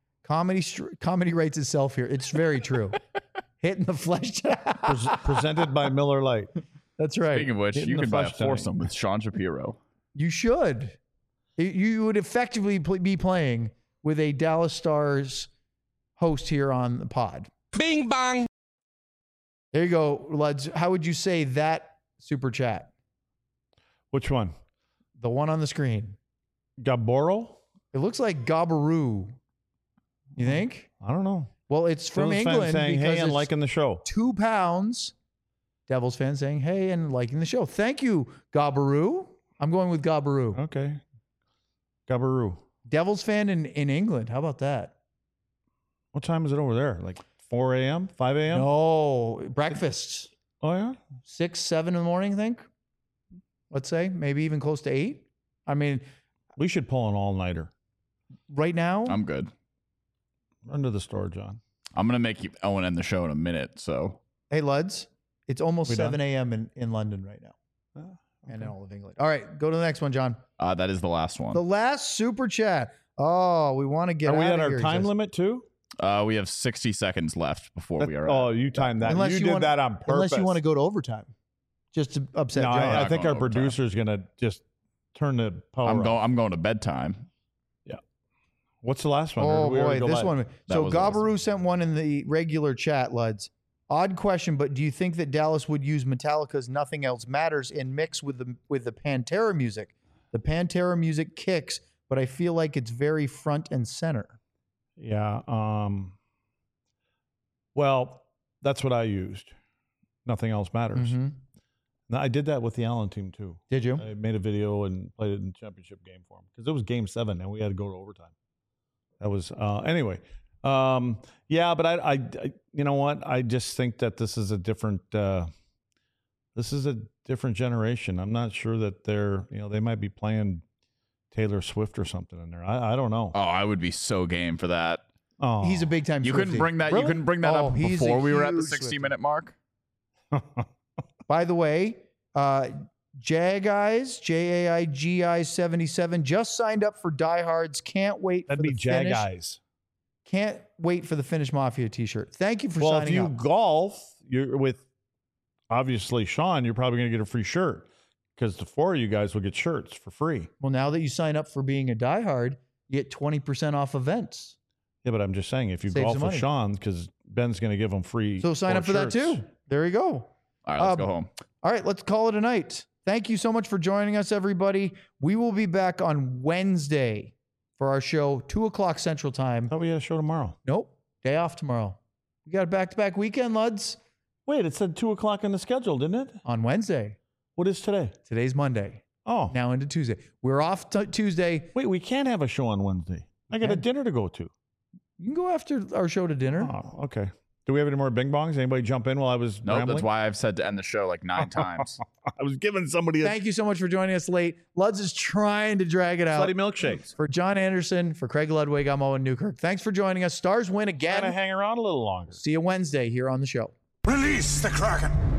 [SPEAKER 1] Comedy writes itself here. It's very true. Hitting the flesh.
[SPEAKER 3] Presented by Miller Lite.
[SPEAKER 1] That's right.
[SPEAKER 4] Speaking of which,
[SPEAKER 3] Hitting
[SPEAKER 4] you
[SPEAKER 3] the
[SPEAKER 4] can buy a
[SPEAKER 3] flesh tonight.
[SPEAKER 4] foursome with Sean Shapiro.
[SPEAKER 1] You should. You would effectively be playing with a Dallas Stars host here on the pod.
[SPEAKER 5] Bing bang.
[SPEAKER 1] There you go, Luds. How would you say that super chat?
[SPEAKER 3] Which one?
[SPEAKER 1] The one on the screen.
[SPEAKER 3] Gaboro?
[SPEAKER 1] It looks like Gabaroo. You think?
[SPEAKER 3] I don't know.
[SPEAKER 1] Well, it's from
[SPEAKER 3] Phillies fans
[SPEAKER 1] England
[SPEAKER 3] saying,
[SPEAKER 1] because
[SPEAKER 3] hey, and
[SPEAKER 1] it's
[SPEAKER 3] liking the show.
[SPEAKER 1] 2 pounds. Devils fans saying, hey, and liking the show. Thank you, Gabaroo. I'm going with Gabaroo.
[SPEAKER 3] Okay. Gabaroo.
[SPEAKER 1] Devils fan in England. How about that?
[SPEAKER 3] What time is it over there? Like 4 a.m., 5 a.m.?
[SPEAKER 1] No, breakfast.
[SPEAKER 3] Oh, yeah?
[SPEAKER 1] 6, 7 in the morning, I think. Let's say maybe even close to 8. I mean,
[SPEAKER 3] We should pull an all-nighter.
[SPEAKER 1] right now,
[SPEAKER 4] I'm good.
[SPEAKER 3] Run to the store, John.
[SPEAKER 4] I'm gonna make Owen end the show in a minute. So
[SPEAKER 1] hey, Luds, it's almost
[SPEAKER 3] We done?
[SPEAKER 1] 7 a.m. in London right now and in
[SPEAKER 3] Okay.
[SPEAKER 1] all of England. All right, go to the next one, John.
[SPEAKER 4] that is the last one.
[SPEAKER 1] The last super chat. Oh, we want to get
[SPEAKER 3] Are we
[SPEAKER 1] out
[SPEAKER 3] at
[SPEAKER 1] of
[SPEAKER 3] our
[SPEAKER 1] here,
[SPEAKER 3] time
[SPEAKER 1] just-
[SPEAKER 3] limit, too?
[SPEAKER 4] We have 60 seconds left before we are.
[SPEAKER 3] Oh,
[SPEAKER 4] at.
[SPEAKER 3] you timed that.
[SPEAKER 1] Unless
[SPEAKER 3] you
[SPEAKER 1] you
[SPEAKER 3] did
[SPEAKER 1] wanna-
[SPEAKER 3] that on purpose.
[SPEAKER 1] Unless you want to go to overtime, just to upset
[SPEAKER 3] No,
[SPEAKER 1] John.
[SPEAKER 3] I
[SPEAKER 4] not
[SPEAKER 3] think
[SPEAKER 4] going
[SPEAKER 3] our
[SPEAKER 4] to overtime.
[SPEAKER 3] producer's going to just turn the power off.
[SPEAKER 4] I'm going to bedtime.
[SPEAKER 3] What's the last one? Or
[SPEAKER 1] Oh
[SPEAKER 3] did we already
[SPEAKER 1] boy,
[SPEAKER 3] go
[SPEAKER 1] this
[SPEAKER 3] live?
[SPEAKER 1] one. So
[SPEAKER 4] was the last
[SPEAKER 1] Gabaroo sent one in the regular chat, Luds. Odd question, but do you think that Dallas would use Metallica's "Nothing Else Matters" in mix with the Pantera music? The Pantera music kicks, but I feel like it's very front and center.
[SPEAKER 3] Yeah. Well, that's what I used. Nothing else matters.
[SPEAKER 1] Mhm.
[SPEAKER 3] Now, I did that with the Allen team, too.
[SPEAKER 1] Did you?
[SPEAKER 3] I made a video and played it in the championship game for them because it was game 7 and we had to go to overtime. That was anyway. Yeah, but I you know what? I just think that this is a different generation. I'm not sure that they might be playing Taylor Swift or something in there. I don't know.
[SPEAKER 4] Oh, I would be so game for that.
[SPEAKER 3] Oh,
[SPEAKER 1] He's a big time.
[SPEAKER 4] You couldn't
[SPEAKER 1] Swiftie.
[SPEAKER 4] bring that.
[SPEAKER 1] Really?
[SPEAKER 4] You couldn't bring that
[SPEAKER 1] Oh,
[SPEAKER 4] up
[SPEAKER 1] he's a
[SPEAKER 4] before we were at the
[SPEAKER 1] huge
[SPEAKER 4] 60
[SPEAKER 1] Swiftie.
[SPEAKER 4] minute mark.
[SPEAKER 1] By the way, Jageyes, Jaigi 77, just signed up for Diehards. Can't wait
[SPEAKER 3] That'd
[SPEAKER 1] for
[SPEAKER 3] be
[SPEAKER 1] the finish.
[SPEAKER 3] Jageyes.
[SPEAKER 1] Can't wait for the Finish Mafia t-shirt. Thank you for
[SPEAKER 3] Well, if
[SPEAKER 1] signing
[SPEAKER 3] you
[SPEAKER 1] up.
[SPEAKER 3] golf, you're with obviously Sean, you're probably going to get a free shirt because the four of you guys will get shirts for free.
[SPEAKER 1] Well, now that you sign up for being a diehard, you get 20% off events.
[SPEAKER 3] Yeah, but I'm just saying if you
[SPEAKER 1] Saves
[SPEAKER 3] golf
[SPEAKER 1] some
[SPEAKER 3] with
[SPEAKER 1] money.
[SPEAKER 3] Sean, because Ben's going to give them free.
[SPEAKER 1] So sign
[SPEAKER 3] four
[SPEAKER 1] up for that
[SPEAKER 3] shirts.
[SPEAKER 1] too. There you go.
[SPEAKER 4] All right, let's go home.
[SPEAKER 1] All right, let's call it a night. Thank you so much for joining us, everybody. We will be back on Wednesday for our show, 2:00 Central Time.
[SPEAKER 3] I thought we had a show tomorrow.
[SPEAKER 1] Nope, day off tomorrow. We got a back-to-back weekend, Luds,
[SPEAKER 3] Wait, it said 2:00 on the schedule, didn't it?
[SPEAKER 1] on Wednesday.
[SPEAKER 3] What is today?
[SPEAKER 1] Today's Monday.
[SPEAKER 3] Oh,
[SPEAKER 1] Now into Tuesday. We're off Tuesday.
[SPEAKER 3] wait, we can't have a show on Wednesday. I got a
[SPEAKER 1] can.
[SPEAKER 3] dinner to go to.
[SPEAKER 1] You can go after our show to dinner.
[SPEAKER 3] Oh, okay. Do we have any more bing bongs? Anybody jump in while I was
[SPEAKER 4] Nope,
[SPEAKER 3] rambling?
[SPEAKER 4] that's why I've said to end the show like 9 times.
[SPEAKER 3] I was giving somebody a
[SPEAKER 1] Thank you so much for joining us late. Luds is trying to drag it out.
[SPEAKER 3] slutty milkshakes.
[SPEAKER 1] For John Anderson, for Craig Ludwig, I'm Owen Newkirk. Thanks for joining us. Stars win
[SPEAKER 3] Trying to
[SPEAKER 1] again.
[SPEAKER 3] hang around a little longer.
[SPEAKER 1] See you Wednesday here on the show.
[SPEAKER 2] Release the Kraken!